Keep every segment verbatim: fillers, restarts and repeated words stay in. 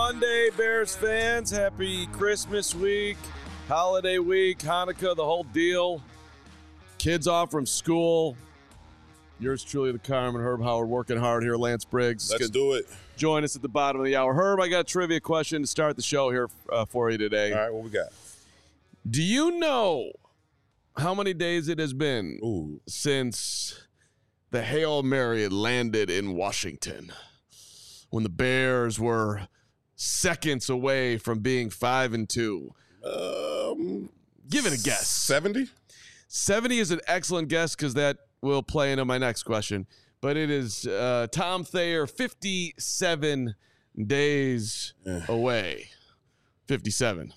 Monday, Bears fans. Happy Christmas week, holiday week, Hanukkah, the whole deal. Kids off from school. Yours truly, the Carmen Herb Howard, working hard here. Lance Briggs. Let's do it. Join us at the bottom of the hour. Herb, I got a trivia question to start the show here uh, for you today. All right, what we got? Do you know how many days it has been Ooh. since the Hail Mary landed in Washington, when the Bears were seconds away from being five and two? Um, Give it a guess. seventy? seventy is an excellent guess because that will play into my next question. But it is uh, Tom Thayer, fifty-seven days Eh. away. fifty-seven.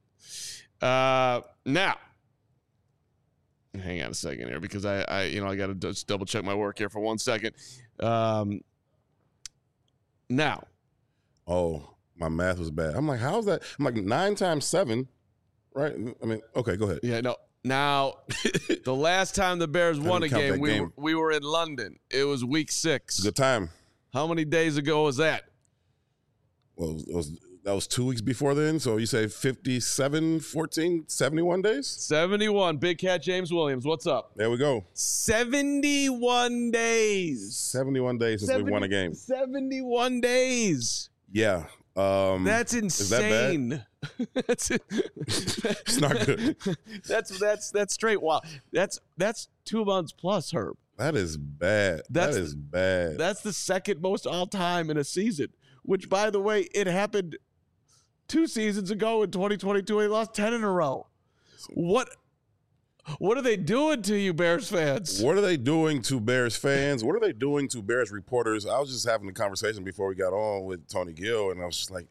Uh, now, hang on a second here because I, I you know, I got to just double check my work here for one second. Um, now, Oh, my math was bad. I'm like, how's that? I'm like, nine times seven, right? I mean, okay, go ahead. yeah, no. Now, the last time the Bears won a didn't count game, that we game. were, we were in London. It was week six. Good time. How many days ago was that? Well, it was, that was two weeks before then. So you say fifty-seven, fourteen, seventy-one days? seventy-one. Big Cat James Williams, what's up? There we go. seventy-one days. seventy-one days since we won a game. seventy-one days. Yeah. Um, That's that insane. that's it. It's not good. that's that's that's straight. Wow. That's that's two months plus, Herb. That is bad. That's- that is bad. That's the second most all time in a season. Which, by the way, it happened two seasons ago in twenty twenty-two. They lost ten in a row. What? What are they doing to you, Bears fans? What are they doing to Bears fans? What are they doing to Bears reporters? I was just having a conversation before we got on with Tony Gill, and I was just like,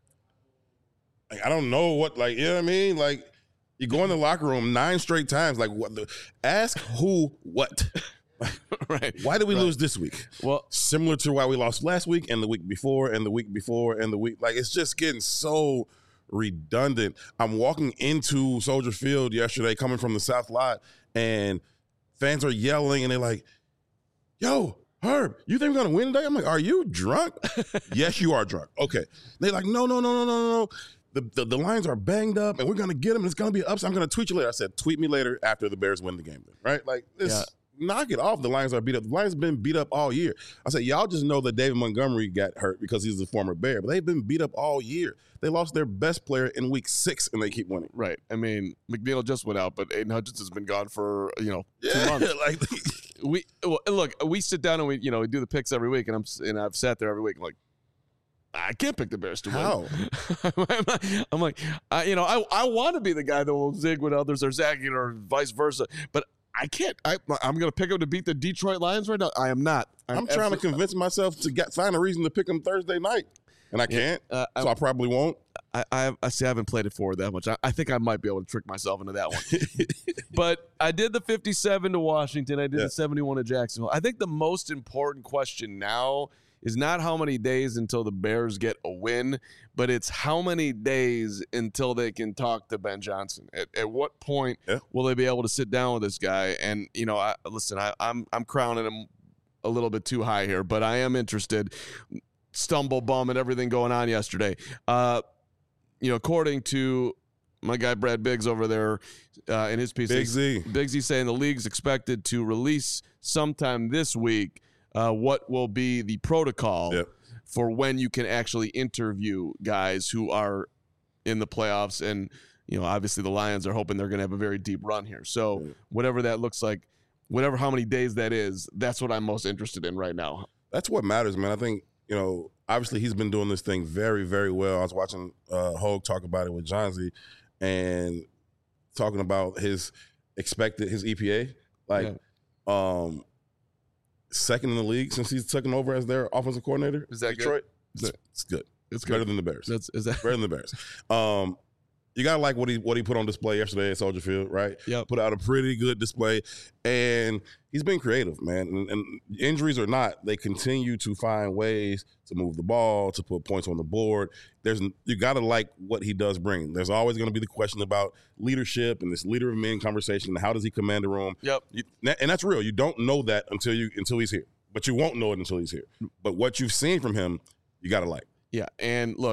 like I don't know what, like, you know what I mean? Like, you go in the locker room nine straight times, like, what? The, ask who what? Right. Why did we Right. lose this week? Well, Similar to why we lost last week and the week before and the week before and the week. Like, it's just getting so redundant. I'm walking into Soldier Field yesterday coming from the South Lot, and fans are yelling, and they're like, yo, Herb, you think we're going to win today? I'm like, are you drunk? Yes, you are drunk. Okay. They're like, no, no, no, no, no, no. The, the, the Lions are banged up, and we're going to get them, and it's going to be an upset. I'm going to tweet you later. I said, tweet me later after the Bears win the game, then, right? Like, this. Yeah. Knock it off. The Lions are beat up. The Lions have been beat up all year. I said, y'all just know that David Montgomery got hurt because he's a former Bear, but they've been beat up all year. They lost their best player in week six, and they keep winning. right. I mean, McNeil just went out, but Aiden Hutchins has been gone for, you know, two Yeah, months. like we well, look, we sit down and we, you know, we do the picks every week, and I'm and I've sat there every week. I'm like, I can't pick the Bears to How? win. I'm like, I, you know, I I want to be the guy that will zig when others are zagging, or vice versa, but I can't. I I'm going to pick them to beat the Detroit Lions right now. I am not. I'm, trying to absolutely- convince myself to get find a reason to pick them Thursday night, and I can't. Uh, I, so I probably won't. I, I, I see. I haven't played it forward that much. I, I think I might be able to trick myself into that one. But I did the fifty-seven to Washington. I did Yeah. the seventy-one to Jacksonville. I think the most important question now is not how many days until the Bears get a win, but it's how many days until they can talk to Ben Johnson. At, at what point Yeah. will they be able to sit down with this guy? And you know, I, listen, I, I'm I'm crowning him a little bit too high here, but I am interested. Stumble bum and everything going on yesterday. Uh, you know, according to my guy Brad Biggs over there uh, in his piece, Big Z. Big Z saying the league's expected to release sometime this week uh, what will be the protocol Yep. for when you can actually interview guys who are in the playoffs. And, you know, obviously the Lions are hoping they're going to have a very deep run here. So Yeah. whatever that looks like, whatever how many days that is, that's what I'm most interested in right now. That's what matters, man. I think, you know, obviously he's been doing this thing very, very well. I was watching uh, Hogue talk about it with Johnsy and talking about his expected, his E P A. Like, um, second in the league since he's taken over as their offensive coordinator. Is that good? Detroit? Is that- It's, it's good. It's Better good. than the Bears. That's is that Better than the Bears. Um, you gotta like what he what he put on display yesterday at Soldier Field, right? Yep. Put out a pretty good display, and he's been creative, man. And, and injuries or not, they continue to find ways to move the ball, to put points on the board. There's you gotta like what he does bring. There's always going to be the question about leadership and this leader of men conversation. How does he command the room? Yep. You, and that's real. You don't know that until you until he's here, but you won't know it until he's here. But what you've seen from him, you gotta like. Yeah, and look,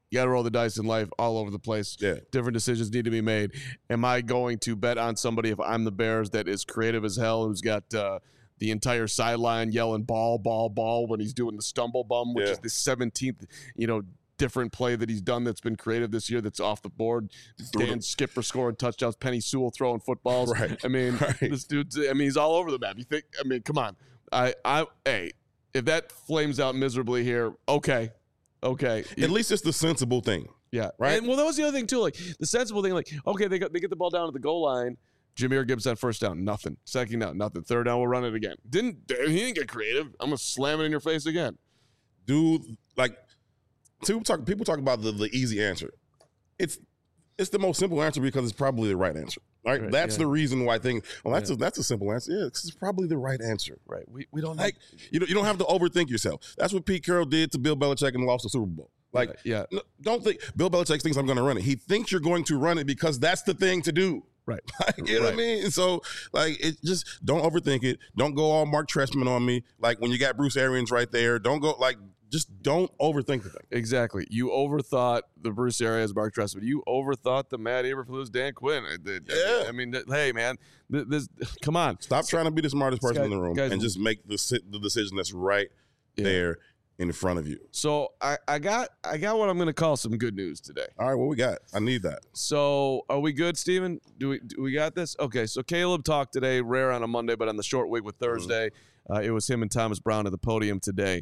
You got to roll the dice in life all over the place. Yeah. Different decisions need to be made. Am I going to bet on somebody if I'm the Bears that is creative as hell, who's got uh, the entire sideline yelling ball, ball, ball when he's doing the stumble bum, which Yeah. is the seventeenth, you know, different play that he's done that's been creative this year that's off the board. Dan Skipper scoring touchdowns, Penny Sewell throwing footballs. Right. I mean, right. this dude's, I mean, he's all over the map. You think, I mean, come on. I, I, hey, if that flames out miserably here, okay. Okay. At least it's the sensible thing. Yeah. Right. And well, that was the other thing too. Like the sensible thing, like, okay, they got they get the ball down at the goal line. Jameer Gibbs on first down, nothing. Second down, nothing. Third down, we'll run it again. Didn't he didn't get creative. I'm gonna slam it in your face again. Dude, like people talk people talk about the, the easy answer. It's it's the most simple answer because it's probably the right answer. Right? Right, that's yeah. the reason why I think, well, that's Yeah. a that's a simple answer. Yeah, it's probably the right answer. Right. We we don't Like you don't you don't have to overthink yourself. That's what Pete Carroll did to Bill Belichick and lost the Super Bowl. Like, yeah. no, don't think Bill Belichick thinks I'm going to run it. He thinks you're going to run it because that's the thing to do. Right. Like, you know what I mean? And so, like, it just don't overthink it. Don't go all Mark Trestman on me. Like when you got Bruce Arians right there, don't go like just don't overthink the thing. Exactly. You overthought the Bruce Arians, Mark Trestman. You overthought the Matt Eberflus, Dan Quinn. Yeah. I mean, hey, man, this. Come on. Stop trying to be the smartest person guy- in the room guys- and just make the si- the decision that's right Yeah. there in front of you. So I, I got I got what I'm going to call some good news today. All right, what we got? I need that. So are we good, Steven? Do we do we got this? Okay, so Caleb talked today, rare on a Monday, but on the short week with Thursday, uh, it was him and Thomas Brown at the podium today.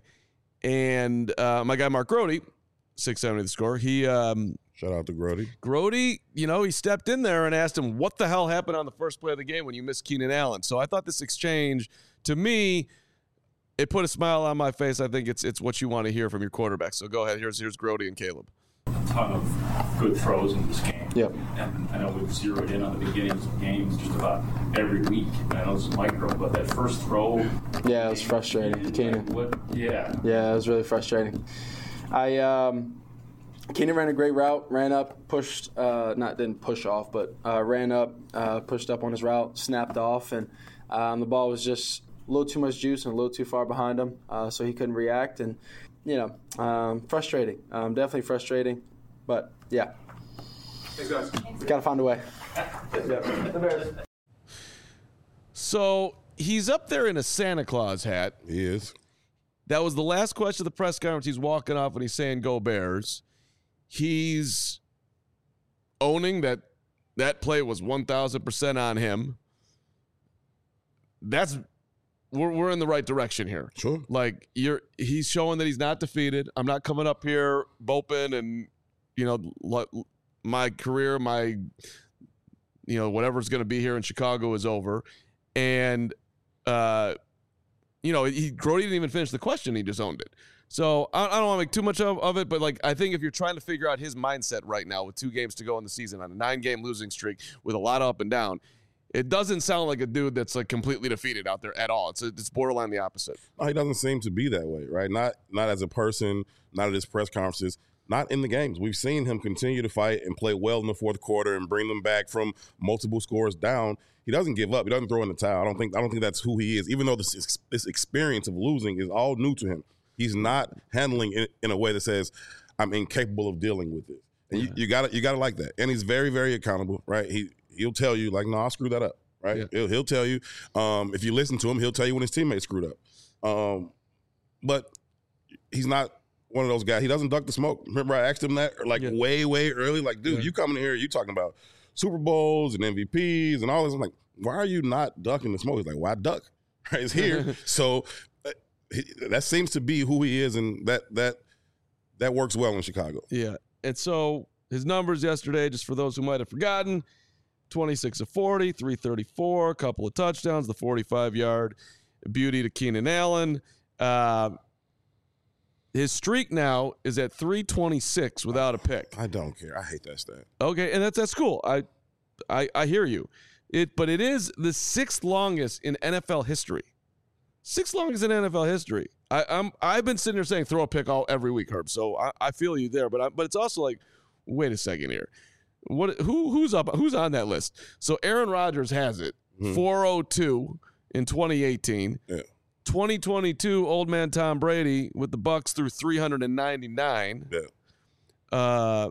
And uh, my guy Mark Grody, six seventy the score, he um, Shout out to Grody. Grody, you know, he stepped in there and asked him, what the hell happened on the first play of the game when you missed Keenan Allen? So I thought this exchange, to me, it put a smile on my face. I think it's it's what you want to hear from your quarterback. So go ahead. Here's here's Grody and Caleb. A ton of good throws in this game. Yep. And I know we've zeroed in on the beginnings of games just about every week. I know it's micro, but that first throw. Yeah, it was frustrating. Keenan. What? Yeah. Yeah, it was really frustrating. I um, Keenan ran a great route, ran up, pushed, uh, not didn't push off, but uh, ran up, uh, pushed up on his route, snapped off, and um, the ball was just a little too much juice and a little too far behind him, uh, so he couldn't react. And, you know, um, frustrating. Um, definitely frustrating. But, yeah. Thanks, guys. Got to find a way. Yeah. So he's up there in a Santa Claus hat. He is. That was the last question of the press conference. He's walking off and he's saying, go Bears. He's owning that that play was one thousand percent on him. That's we're, we're in the right direction here. Sure. Like you're he's showing that he's not defeated. I'm not coming up here moping and, you know, l- my career, my, you know, whatever's going to be here in Chicago is over. And, uh, you know, he, Grody didn't even finish the question. He just owned it. So I, I don't want to make too much of, of it, but like I think if you're trying to figure out his mindset right now with two games to go in the season on a nine-game losing streak with a lot of up and down, it doesn't sound like a dude that's like completely defeated out there at all. It's a, it's borderline the opposite. No, he doesn't seem to be that way, right? Not not as a person, not at his press conferences, not in the games. We've seen him continue to fight and play well in the fourth quarter and bring them back from multiple scores down. He doesn't give up. He doesn't throw in the towel. I don't think I don't think that's who he is. Even though this this experience of losing is all new to him, he's not handling it in a way that says, "I'm incapable of dealing with this." And you, you got you got to like that. And he's very very accountable, right? He he'll tell you like, "No, I screwed that up." Right? Yeah. He'll, he'll tell you. Um, if you listen to him, he'll tell you when his teammates screwed up. Um, but he's not one of those guys. He doesn't duck the smoke. Remember, I asked him that like Yeah. way way early. Like, dude, Yeah. you coming in here, you talking about Super Bowls and M V Ps and all this. I'm like, why are you not ducking the smoke? He's like, why duck? Right? It's here. So uh, he, that seems to be who he is, and that that that works well in Chicago. Yeah. And so his numbers yesterday, just for those who might have forgotten, twenty-six of forty, three thirty-four, a couple of touchdowns, the forty-five-yard beauty to Keenan Allen. Uh, his streak now is at three twenty-six without a pick. I don't care. I hate that stat. Okay, and that's that's cool. I, I I hear you. It, but it is the sixth longest in N F L history. Sixth longest in N F L history. I, I'm I've been sitting here saying throw a pick all every week, Herb. So I, I feel you there. But I, but it's also like, wait a second here. What who who's up who's on that list? So Aaron Rodgers has it, Mhm. four oh two in twenty eighteen. Yeah. twenty twenty-two, old man Tom Brady with the Bucks through three hundred ninety-nine. Yeah. Uh,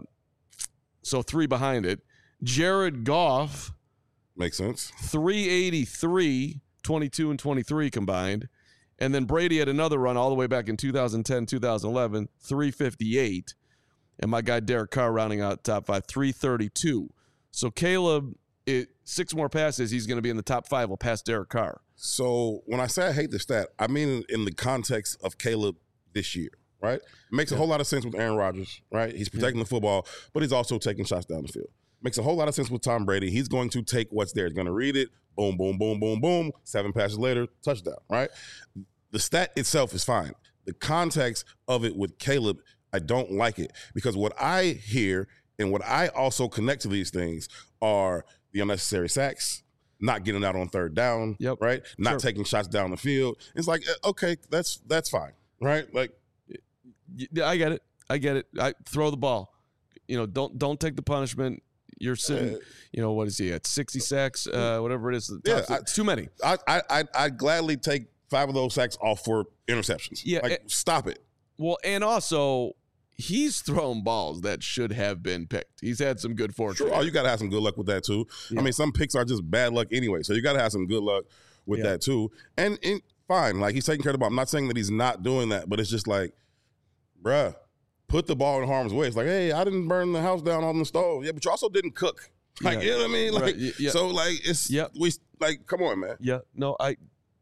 so three behind it. Jared Goff, Makes sense. three eighty-three, twenty-two and twenty-three combined. And then Brady had another run all the way back in two thousand ten, two thousand eleven, three fifty-eight. And my guy Derek Carr rounding out top five, three thirty-two. So Caleb, it, six more passes, he's going to be in the top five. Will pass Derek Carr. So when I say I hate the stat, I mean in the context of Caleb this year, right? It makes a whole lot of sense with Aaron Rodgers, right? He's protecting the football, but he's also taking shots down the field. Makes a whole lot of sense with Tom Brady. He's going to take what's there. He's going to read it. Boom, boom, boom, boom, boom. Seven passes later, touchdown, right? The stat itself is fine. The context of it with Caleb, I don't like it because what I hear and what I also connect to these things are the unnecessary sacks, not getting out on third down, Yep. right? Not Sure. taking shots down the field. It's like, okay, that's that's fine, right? Like, Yeah, I get it. I get it. I throw the ball. You know, don't don't take the punishment. You're sitting, Uh, you know, what is he at? sixty sacks, uh, whatever it is. The Yeah, top- I- it's too many. I, I, I'd, I'd gladly take five of those sacks off for interceptions. Yeah, like, eh, stop it. Well, and also, he's thrown balls that should have been picked. He's had some good fortune. Sure. Oh, you got to have some good luck with that, too. Yeah. I mean, some picks are just bad luck anyway, so you got to have some good luck with Yeah. that, too. And, and fine, like, he's taking care of the ball. I'm not saying that he's not doing that, but it's just like, bruh, put the ball in harm's way. It's like, hey, I didn't burn the house down on the stove. Yeah, but you also didn't cook. Like, Yeah. you know what I mean? Like, Right, y- yeah. so, like, it's, Yep. we, like, come on, man. Yeah, no, I.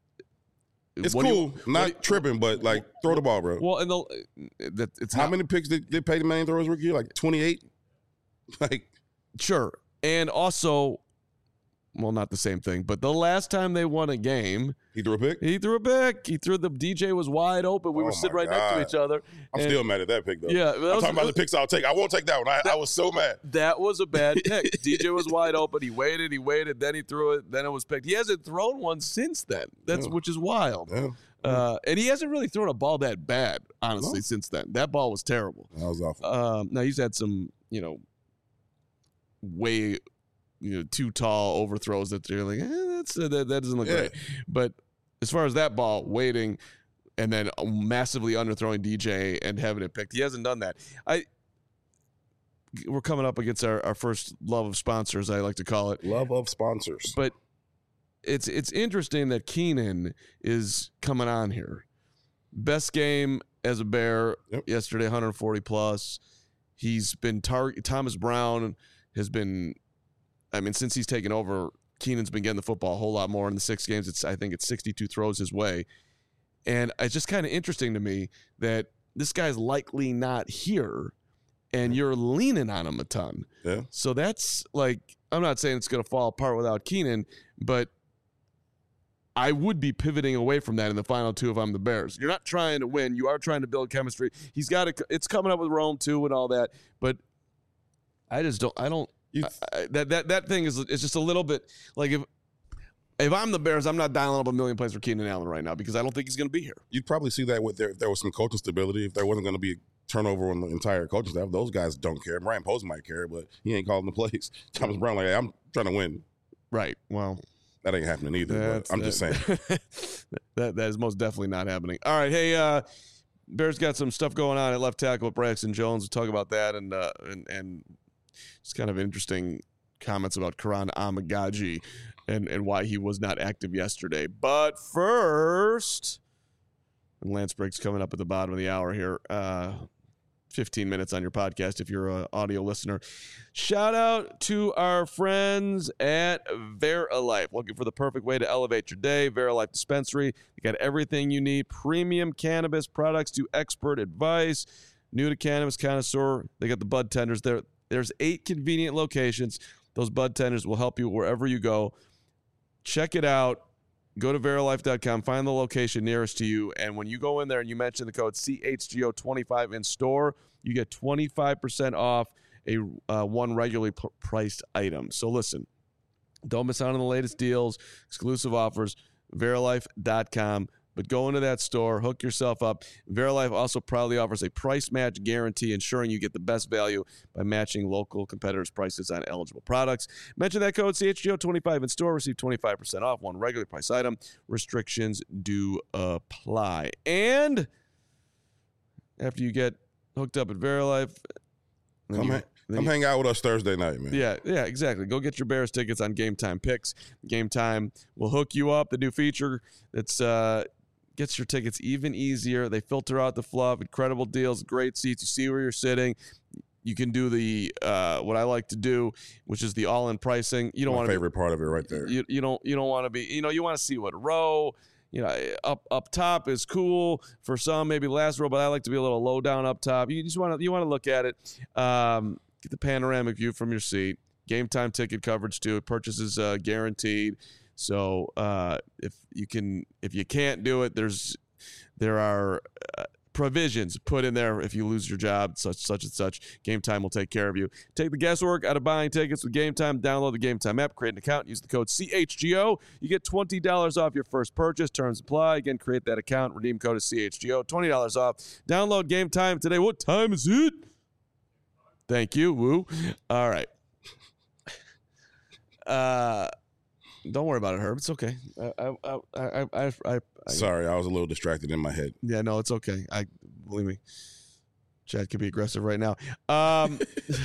It's what do you- cool. what not do you- tripping, but, like, throw the ball, bro. Well, and the that it's How not, many picks did, did Peyton Manning throw his rookie year? Like twenty-eight? Like, sure, and also, well, not the same thing, but the last time they won a game, he threw a pick? he threw a pick. He threw the D J was wide open. We Oh were sitting my right next to God. each other. I'm and still mad at that pick, though. Yeah, that I'm was- talking about the picks I'll take. I won't take that one. I, I was so mad. That was a bad pick. D J was wide open. He waited. He waited. Then he threw it. Then it was picked. He hasn't thrown one since then. That's Yeah. which is wild. Yeah, Uh, and he hasn't really thrown a ball that bad, honestly, No. since then. That ball was terrible. that was awful. Um, now he's had some, you know, way, you know, too tall overthrows that they're like, eh, that's uh, that, that doesn't look Yeah. great. But as far as that ball, waiting and then massively underthrowing D J and having it picked, he hasn't done that. I. We're coming up against our, our first love of sponsors, I like to call it. Love of sponsors. But it's it's interesting that Keenan is coming on here. Best game as a Bear Yep. yesterday, one forty plus. He's been target. Thomas Brown has been. I mean, since he's taken over, Keenan's been getting the football a whole lot more in the six games. It's I think it's sixty-two throws his way, and it's just kind of interesting to me that this guy's likely not here, and you're leaning on him a ton. Yeah. So that's like, I'm not saying it's going to fall apart without Keenan, but I would be pivoting away from that in the final two if I'm the Bears. You're not trying to win. You are trying to build chemistry. He's got to, it's coming up with Rome too and all that, but I just don't, I don't, You- I, I- that, that, that thing is, it's just a little bit like if, if I'm the Bears, I'm not dialing up a million plays for Keenan Allen right now because I don't think he's going to be here. You'd probably see that with there, if there was some coaching stability, if there wasn't going to be a turnover on the entire coaching staff. Those guys don't care. Brian Post might care, but he ain't calling the plays. Thomas Brown, like, hey, I'm trying to win. Right. Well, That ain't happening either. That's- But I'm just saying. that- that that is most definitely not happening. All right, hey, uh, Bears got some stuff going on at left tackle with Braxton Jones. We'll talk about that and uh, and and it's kind of interesting comments about Karan Amagaji and and why he was not active yesterday. But first, and Lance Briggs coming up at the bottom of the hour here. Uh, fifteen minutes on your podcast if you're an audio listener. Shout out to our friends at Verilife. Looking for the perfect way to elevate your day? Verilife Dispensary. They got everything you need. Premium cannabis products to expert advice. New to cannabis connoisseur. They got the bud tenders there. There's eight convenient locations. Those bud tenders will help you wherever you go. Check it out. Go to verilife dot com, find the location nearest to you, and when you go in there and you mention the code C H G O twenty-five in store, you get twenty-five percent off a uh, one regularly p- priced item. So listen, don't miss out on the latest deals, exclusive offers, verilife dot com. But go into that store, hook yourself up. Verilife also proudly offers a price match guarantee, ensuring you get the best value by matching local competitors' prices on eligible products. Mention that code C H G O twenty-five in store, receive twenty-five percent off one regular price item. Restrictions do apply. And after you get hooked up at Verilife, Then Come, you- hang, then come you- hang out with us Thursday night, man. Yeah, yeah, exactly. Go get your Bears tickets on Game Time Picks. Game Time will hook you up. The new feature that's uh, gets your tickets even easier. They filter out the fluff. Incredible deals, great seats. You see where you're sitting. You can do the uh, what I like to do, which is the all-in pricing. You don't My want to favorite part of it right there. You, you don't you don't want to be you know you want to see what row. You know, up up top is cool for some, maybe last row, but I like to be a little low down up top. You just want to you want to look at it, um, get the panoramic view from your seat. Game Time ticket coverage too. Purchases uh, guaranteed. So uh, if you can, if you can't do it, there's there are uh, provisions put in there if you lose your job, such such and such. Game Time will take care of you. Take the guesswork out of buying tickets with Game Time. Download the Game Time app, create an account, use the code C H G O. You get twenty dollars off your first purchase. Terms apply. Again, create that account. Redeem code is C H G O. twenty dollars off. Download Game Time today. What time is it? Thank you. Woo. All right. Uh, don't worry about it, Herb. It's okay. I, I, I, I, I, I, I Sorry, I was a little distracted in my head. Yeah, no, it's okay. I believe me. Chad could be aggressive right now. Um,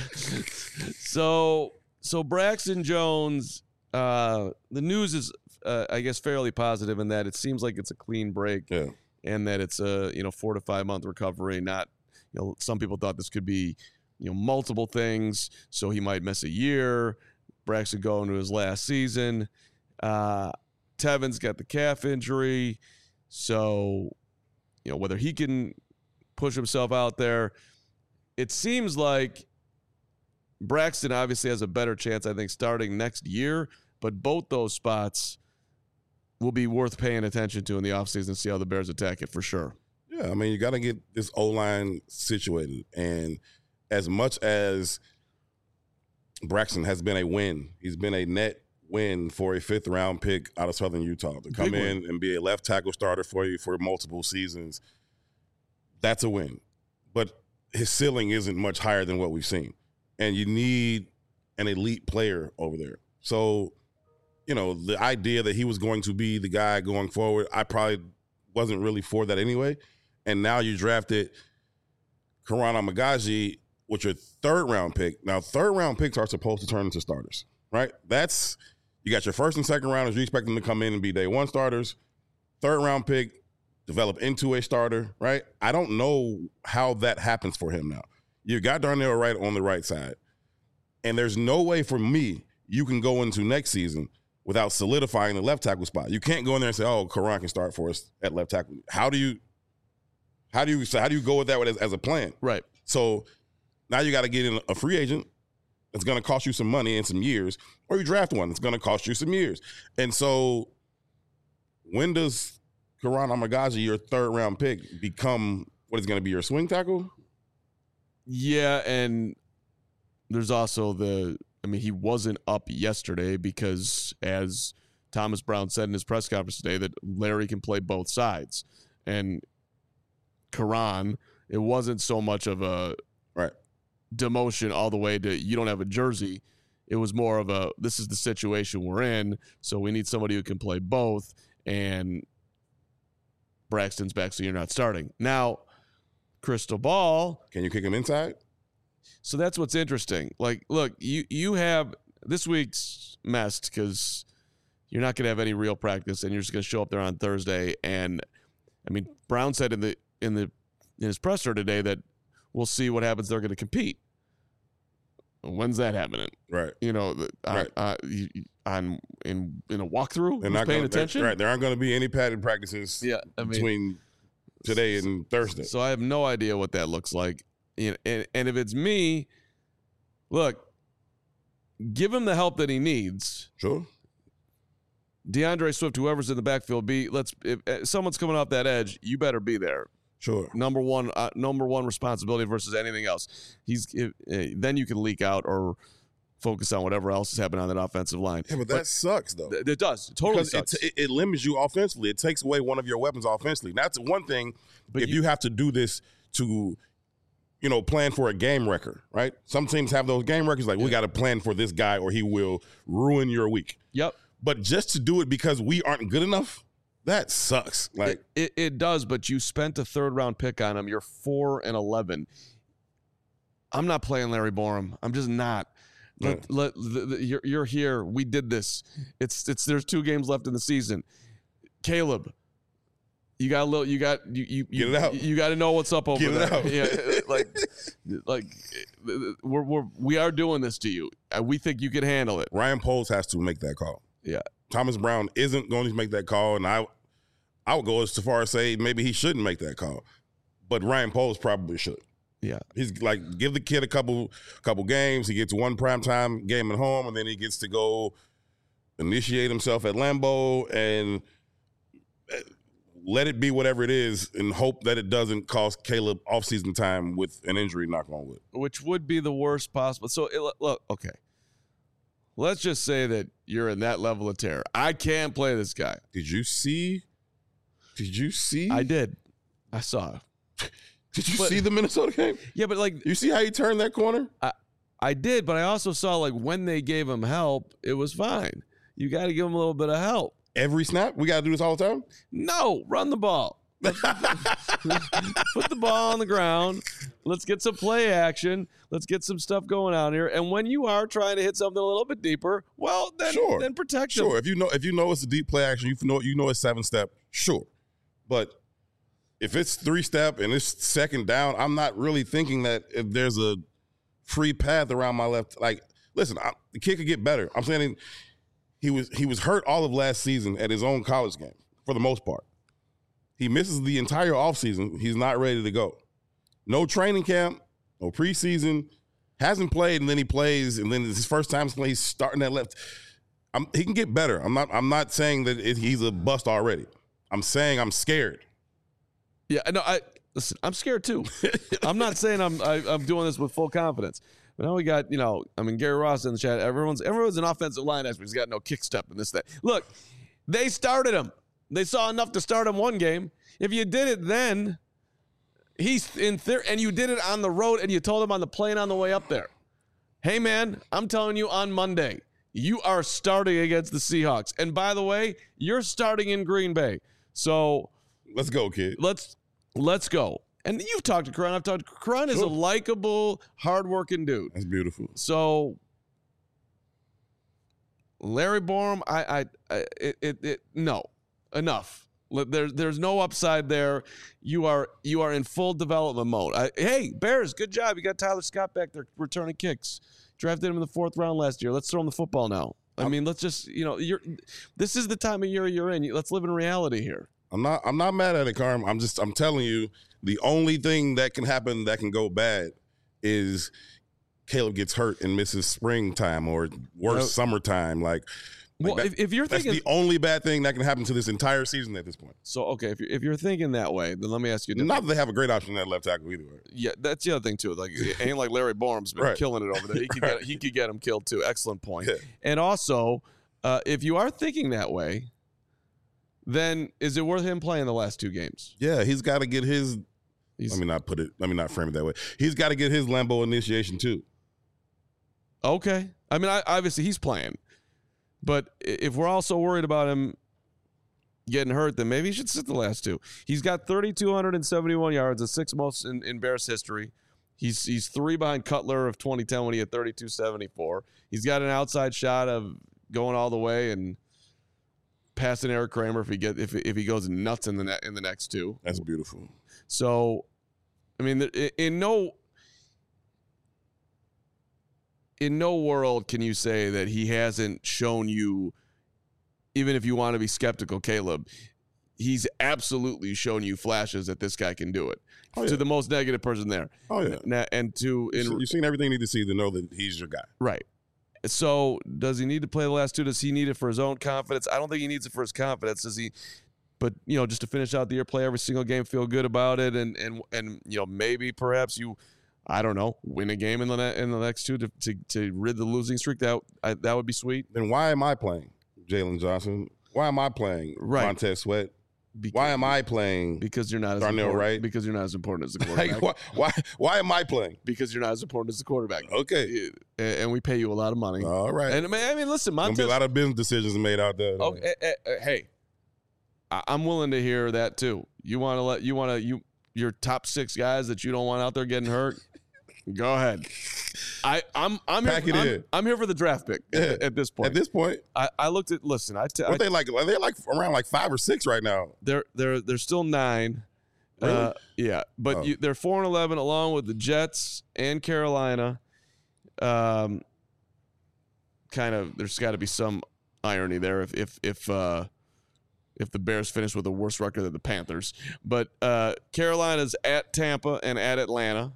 so, so Braxton Jones. Uh, the news is, uh, I guess, fairly positive in that it seems like it's a clean break, Yeah. and that it's a you know four to five month recovery. Not, you know, some people thought this could be, you know, multiple things. So he might miss a year. Braxton go into his last season. Uh, Tevin's got the calf injury. So, you know, whether he can push himself out there, it seems like Braxton obviously has a better chance, I think, starting next year. But both those spots will be worth paying attention to in the offseason, see how the Bears attack it for sure. Yeah, I mean, you got to get this O-line situated. And as much as Braxton has been a win, he's been a net win for a fifth-round pick out of Southern Utah to come Big in win. and be a left tackle starter for you for multiple seasons. That's a win. But his ceiling isn't much higher than what we've seen. And you need an elite player over there. So, you know, the idea that he was going to be the guy going forward, I probably wasn't really for that anyway. And now you drafted Karan Amagaji with your third-round pick. Now, third-round picks are supposed to turn into starters, right? That's – you got your first and second rounders. You expect them to come in and be day one starters. Third-round pick, develop into a starter, right? I don't know how that happens for him now. You got Darnell Wright on the right side. And there's no way for me you can go into next season without solidifying the left tackle spot. You can't go in there and say, oh, Karan can start for us at left tackle. How do you how do you how do you go with that as, as a plan? Right. So now you got to get in a free agent that's going to cost you some money and some years, or you draft one that's going to cost you some years. And so when does Karan Amagaji, your third round pick, become what is going to be your swing tackle? Yeah, and there's also the I mean, he wasn't up yesterday because, as Thomas Brown said in his press conference today, that Larry can play both sides. And Karan, it wasn't so much of a right demotion all the way to you don't have a jersey. It was more of a this is the situation we're in, so we need somebody who can play both. And Braxton's back, so you're not starting. Now, crystal ball. Can you kick him inside? So that's what's interesting. Like, look, you you have this week's messed because you're not going to have any real practice, and you're just going to show up there on Thursday. And I mean, Brown said in the in the in his presser today that we'll see what happens. They're going to compete. When's that happening? Right. You know, on, Right. uh, you- on in in a walkthrough. They're Who's not paying gonna, attention. Right. There aren't going to be any padded practices Yeah, I mean, between today and Thursday. So I have no idea what that looks like. You know, and, and if it's me, look, give him the help that he needs. Sure. DeAndre Swift, whoever's in the backfield, be let's if, if someone's coming off that edge, you better be there. Sure. Number one, uh, number one responsibility versus anything else. He's if, uh, then you can leak out or focus on whatever else is happening on that offensive line. Yeah, but that sucks though. Th- it does. It totally Because sucks. it, it, it limits you offensively. It takes away one of your weapons offensively. That's one thing. But if you- you, have to do this to, you know, plan for a game record, right? Some teams have those game records. Like we got to plan for this guy, or he will ruin your week. Yep. But just to do it because we aren't good enough, that sucks. Like It, it, it does, but you spent a third round pick on him. You're four and eleven. I'm not playing Larry Borom. I'm just not. Let, Yeah. let, the, the, you're, you're here. We did this. It's it's. There's two games left in the season. Caleb, you got a little. You got you you Get you, it out. you got to know what's up over Get it there. out. Yeah, like like we're we're we are doing this to you. Uh, We think you can handle it. Ryan Poles has to make that call. Yeah. Thomas Brown isn't going to make that call, and I I would go as far as say maybe he shouldn't make that call, but Ryan Poles probably should. Yeah. He's like, give the kid a couple couple games. He gets one primetime game at home, and then he gets to go initiate himself at Lambeau and let it be whatever it is, and hope that it doesn't cost Caleb offseason time with an injury, knock on wood. Which would be the worst possible. So it, look, okay. Let's just say that you're in that level of terror. I can't play this guy. Did you see? Did you see? I did. I saw. Did you but- see the Minnesota game? Yeah, but like You see how he turned that corner? I, I did, but I also saw like when they gave him help, it was fine. You got to give him a little bit of help. Every snap? We got to do this all the time? No, run the ball. Put the ball on the ground. Let's get some play action. Let's get some stuff going on here. And when you are trying to hit something a little bit deeper, well, then Sure. then protect him. Sure. If you know if you know it's a deep play action, you know you know it's seven step, sure. But if it's three step and it's second down, I'm not really thinking that if there's a free path around my left. Like, listen, I, the kid could get better. I'm saying he was he was hurt all of last season at his own college game for the most part. He misses the entire offseason. He's not ready to go. No training camp, no preseason, hasn't played, and then he plays, and then it's his first time playing. He's starting at left. I'm, he can get better. I'm not. I'm not saying that it, he's a bust already. I'm saying I'm scared. Yeah, no, I listen. I'm scared too. I'm not saying I'm I, I'm doing this with full confidence. But now we got, you know, I mean, Gary Ross in the chat. Everyone's everyone's an offensive line expert. He's got no kick step and this that. Look, they started him. They saw enough to start him one game. If you did it then, he's in there, and you did it on the road, and you told him on the plane on the way up there. Hey man, I'm telling you on Monday, you are starting against the Seahawks. And by the way, you're starting in Green Bay. So Let's go, kid. let's let's go. And you've talked to Karan. I've talked to Karan. Is a Sure. likable, hardworking dude. That's beautiful. So Larry Borom, I, I, I it, it, it, no, enough. There's, there's no upside there. You are, you are in full development mode. I, hey, Bears, good job. You got Tyler Scott back there returning kicks. Drafted him in the fourth round last year. Let's throw him the football now. I mean, let's just, you know, you're. This is the time of year you're in. Let's live in reality here. I'm not. I'm not mad at it, Carm. I'm just. I'm telling you, the only thing that can happen that can go bad is Caleb gets hurt and misses springtime or worse, No. summertime. Like, like Well, that- if, if you're that's thinking the only bad thing that can happen to this entire season at this point. so, okay, if you're, if you're thinking that way, then let me ask you. a different- Not that they have a great option at left tackle either way. Yeah, that's the other thing too. Like, it ain't like Larry Borum's been Right. killing it over there. He could get he could get him killed too. Excellent point. Yeah. And also, uh, if you are thinking that way, then is it worth him playing the last two games? Yeah, he's got to get his. He's, Let me not put it. Let me not frame it that way. He's got to get his Lambeau initiation too. okay. I mean, I, obviously he's playing, but i- if we're also worried about him getting hurt, then maybe he should sit the last two. He's got three thousand two hundred seventy-one yards, the sixth most in, in Bears history. He's he's three behind Cutler of twenty ten when he had thirty-two seventy-four. He's got an outside shot of going all the way and passing Eric Kramer if he get if if he goes nuts in the ne- in the next two. That's beautiful. So, I mean, in, in no in no world can you say that he hasn't shown you, even if you want to be skeptical, Caleb, he's absolutely shown you flashes that this guy can do it. Oh, To yeah. the most negative person there. Oh yeah. Na- And to in, You've seen everything you need to see to know that he's your guy. right. So does he need to play the last two? Does he need it for his own confidence? I don't think he needs it for his confidence. Does he? But you know, just to finish out the year, play every single game, feel good about it, and and and you know, maybe perhaps you, I don't know, win a game in the ne- in the next two to to, to rid the losing streak. That I, that would be sweet. Then why am I playing Jalen Johnson? Why am I playing Right. Montez Sweat? Because, Why am I playing? Because you're not as Darnell important, Wright? Because you're not as important as the quarterback. Like, why, why? Why am I playing? Because you're not as important as the quarterback. Okay. And and we pay you a lot of money. All right. And I mean, I mean, listen, Gonna Montez. be a lot of business decisions made out there. Oh, eh, eh, eh, hey, I- I'm willing to hear that too. You want to let you want to you your top six guys that you don't want out there getting hurt. Go ahead. I, I'm I'm Pack here, it I'm, in. I'm here for the draft pick at, at this point. At this point, I, I looked at. Listen, I. T- what I they like? They're like around like five or six right now. they're they're they're still nine. Really? Uh, yeah, but Oh. you, they're four and eleven along with the Jets and Carolina. Um, kind of. There's got to be some irony there if if if uh, if the Bears finish with a worse record than the Panthers. But uh, Carolina's at Tampa and at Atlanta.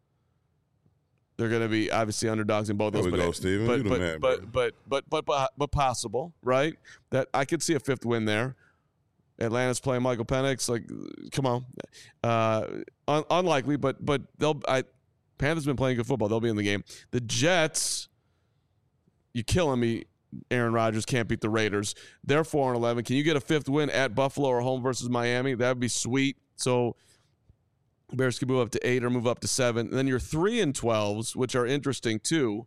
They're going to be obviously underdogs in both There those. we but, go, Steven. But You the but, man, but, bro. but but but but but possible, right? That I could see a fifth win there. Atlanta's playing Michael Penix. Like, come on, uh, un- unlikely, but but they'll. I Panthers been playing good football. They'll be in the game. The Jets, you killing me. Aaron Rodgers can't beat the Raiders. They're four and eleven. Can you get a fifth win at Buffalo or home versus Miami? That'd be sweet. So Bears could move up to eight or move up to seven. And then your three and twelves, which are interesting too.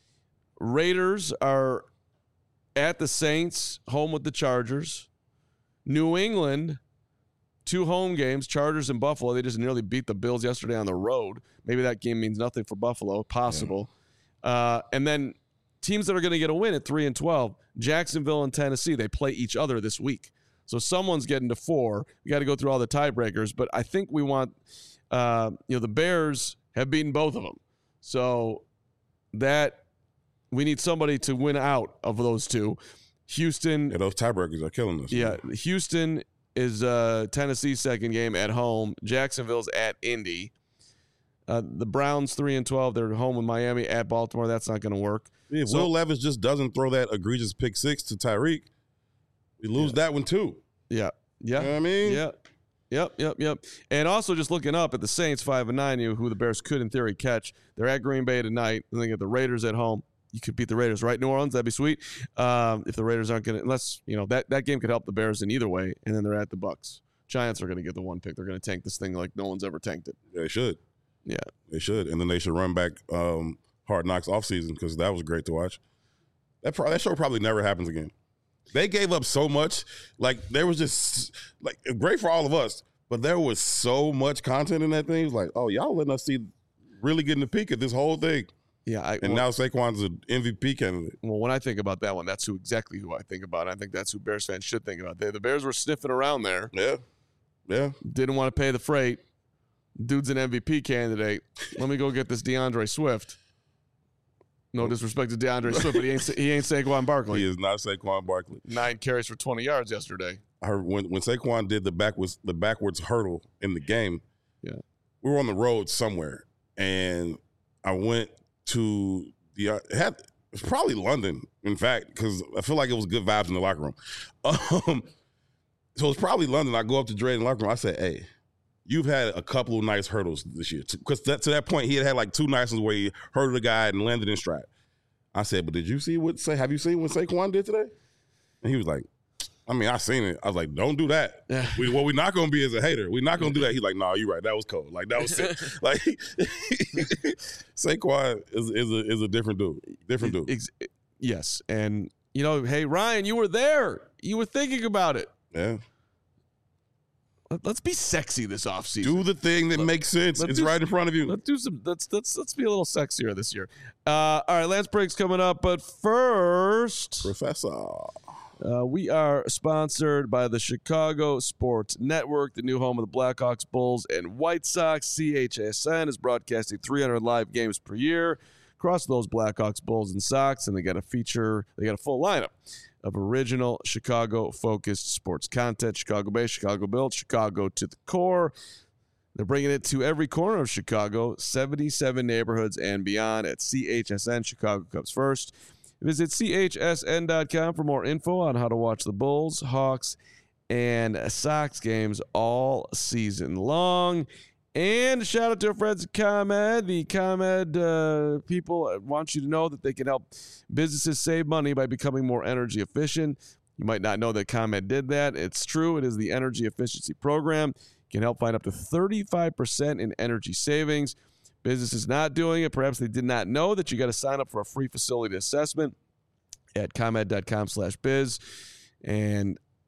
Raiders are at the Saints, home with the Chargers. New England, two home games, Chargers and Buffalo. They just nearly beat the Bills yesterday on the road. Maybe that game means nothing for Buffalo. Possible. Yeah. Uh, and then teams that are going to get a win at three and twelve, Jacksonville and Tennessee, they play each other this week. So someone's getting to four. We got to go through all the tiebreakers, but I think we want, uh, you know, the Bears have beaten both of them. So that we need somebody to win out of those two. Houston. Yeah, those tiebreakers are killing us. Yeah, Houston is uh, Tennessee's second game at home. Jacksonville's at Indy. Uh, the Browns three and twelve. They're home with Miami at Baltimore. That's not going to work. If So- Will Levis just doesn't throw that egregious pick six to Tyreek, we lose Yeah. that one too. Yeah, yeah, You know what I mean? yeah, yep, yep, yep. And also just looking up at the Saints five and nine, you who the Bears could in theory catch. They're at Green Bay tonight. Then they get the Raiders at home. You could beat the Raiders, right? New Orleans, that'd be sweet. Um, if the Raiders aren't going to, unless you know that that game could help the Bears in either way. And then they're at the Bucks. Giants are going to get the one pick. They're going to tank this thing like no one's ever tanked it. They should. Yeah. They should. And then they should run back um, Hard Knocks offseason because that was great to watch. That, pro- that show probably never happens again. They gave up so much. Like, there was just, like, great for all of us, but there was so much content in that thing. It was like, oh, y'all letting us see really getting the peak of this whole thing. Yeah, I, And well, now Saquon's an M V P candidate. well, when I think about that one, that's who exactly who I think about. I think that's who Bears fans should think about. They, the Bears were sniffing around there, Yeah. Yeah. didn't want to pay the freight. Dude's an M V P candidate. Let me go get this DeAndre Swift. No disrespect to DeAndre Swift, but he ain't he ain't Saquon Barkley. He is not Saquon Barkley. Nine carries for twenty yards yesterday. I heard when, when Saquon did the backwards the backwards hurdle in the game, Yeah. we were on the road somewhere, and I went to the uh, it had it was probably London, in fact, because I feel like it was good vibes in the locker room. Um, so it was probably London. I go up to Dre in the locker room. I said, "Hey, you've had a couple of nice hurdles this year." Because that, to that point, he had had like two nice ones where he hurdled a guy and landed in stride. I said, "But did you see what say? Have you seen what Saquon did today?" And he was like, I mean, I seen it. I was like, don't do that. Yeah. We, what we're not going to be is a hater. We're not going to do that. He's like, no, nah, you're right. That was cold. Like, that was sick. Like, Saquon is, is, a, is a different dude. Different dude. Ex- yes, and you know, hey Ryan, you were there. You were thinking about it. Yeah. Let, let's be sexy this offseason. Do the thing that Let- makes sense. let's It's do- right in front of you. Let's do some. Let's let's let's be a little sexier this year. Uh, all right, Lance Break's coming up, but first, Professor. uh, we are sponsored by the Chicago Sports Network, the new home of the Blackhawks, Bulls, and White Sox. C H S N is broadcasting three hundred live games per year across those Blackhawks, Bulls, and Sox, and they got a feature. They got a full lineup of original Chicago-focused sports content. Chicago-based, Chicago-built, Chicago to the core. They're bringing it to every corner of Chicago, seventy-seven neighborhoods and beyond at C H S N. Chicago comes first. Visit C H S N dot com for more info on how to watch the Bulls, Hawks, and Sox games all season long. And shout out to our friends at ComEd. The ComEd uh, people want you to know that they can help businesses save money by becoming more energy efficient. You might not know that ComEd did that. It's true. It is the energy efficiency program. It can help find up to thirty-five percent in energy savings. Businesses not doing it, perhaps they did not know that you got to sign up for a free facility assessment at ComEd dot com slash biz. And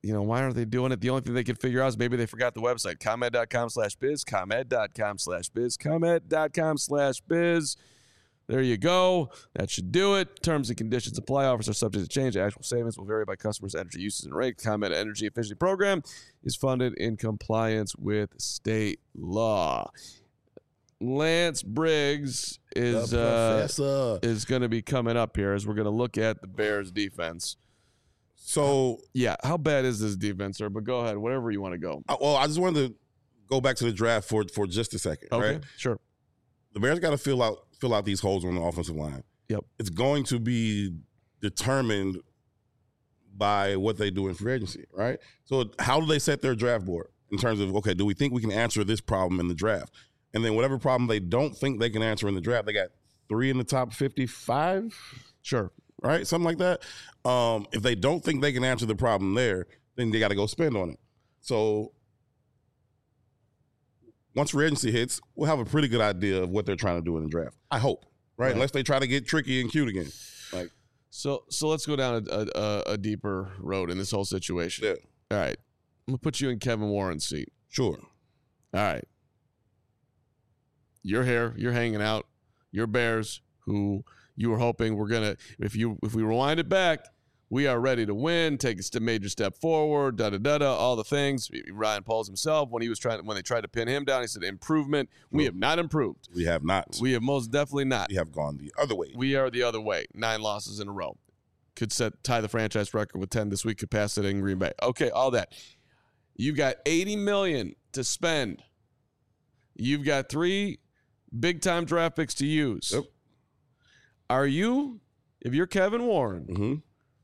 you know, why aren't they doing it? The only thing they could figure out is maybe they forgot the website. ComEd.com slash biz, ComEd.com slash biz, ComEd.com slash biz. There you go. That should do it. Terms and conditions apply. Offers are subject to change. Actual savings will vary by customers' energy uses and rate. ComEd Energy Efficiency Program is funded in compliance with state law. Lance Briggs is uh, is going to be coming up here as we're going to look at the Bears defense. So, yeah, how bad is this defense, sir? But go ahead, whatever you want to go. I, well, I just wanted to go back to the draft for for just a second. Okay, right? Sure. The Bears got to fill out fill out these holes on the offensive line. Yep. It's going to be determined by what they do in free agency, right? So how do they set their draft board in terms of, okay, do we think we can answer this problem in the draft? And then whatever problem they don't think they can answer in the draft, they got three in the top fifty-five? Sure. Right? Something like that. Um, if they don't think they can answer the problem there, then they got to go spend on it. So once free agency hits, we'll have a pretty good idea of what they're trying to do in the draft. I hope, right? right. Unless they try to get tricky and cute again. Like, so, so let's go down a, a, a deeper road in this whole situation. Yeah. All right, I'm gonna put you in Kevin Warren's seat. Sure. All right. You're here. You're hanging out. You're Bears, who you were hoping we're gonna. If you if we rewind it back, we are ready to win, take a major step forward, da da da da, all the things. Ryan Poles himself, when he was trying, when they tried to pin him down, he said improvement. We have not improved. We have not. We have most definitely not. We have gone the other way. We are the other way. Nine losses in a row. Could set tie the franchise record with ten this week. Could pass it in Green Bay. Okay, all that. You've got eighty million dollars to spend. You've got three big time draft picks to use. Yep. Are you, if you're Kevin Warren? Mm-hmm.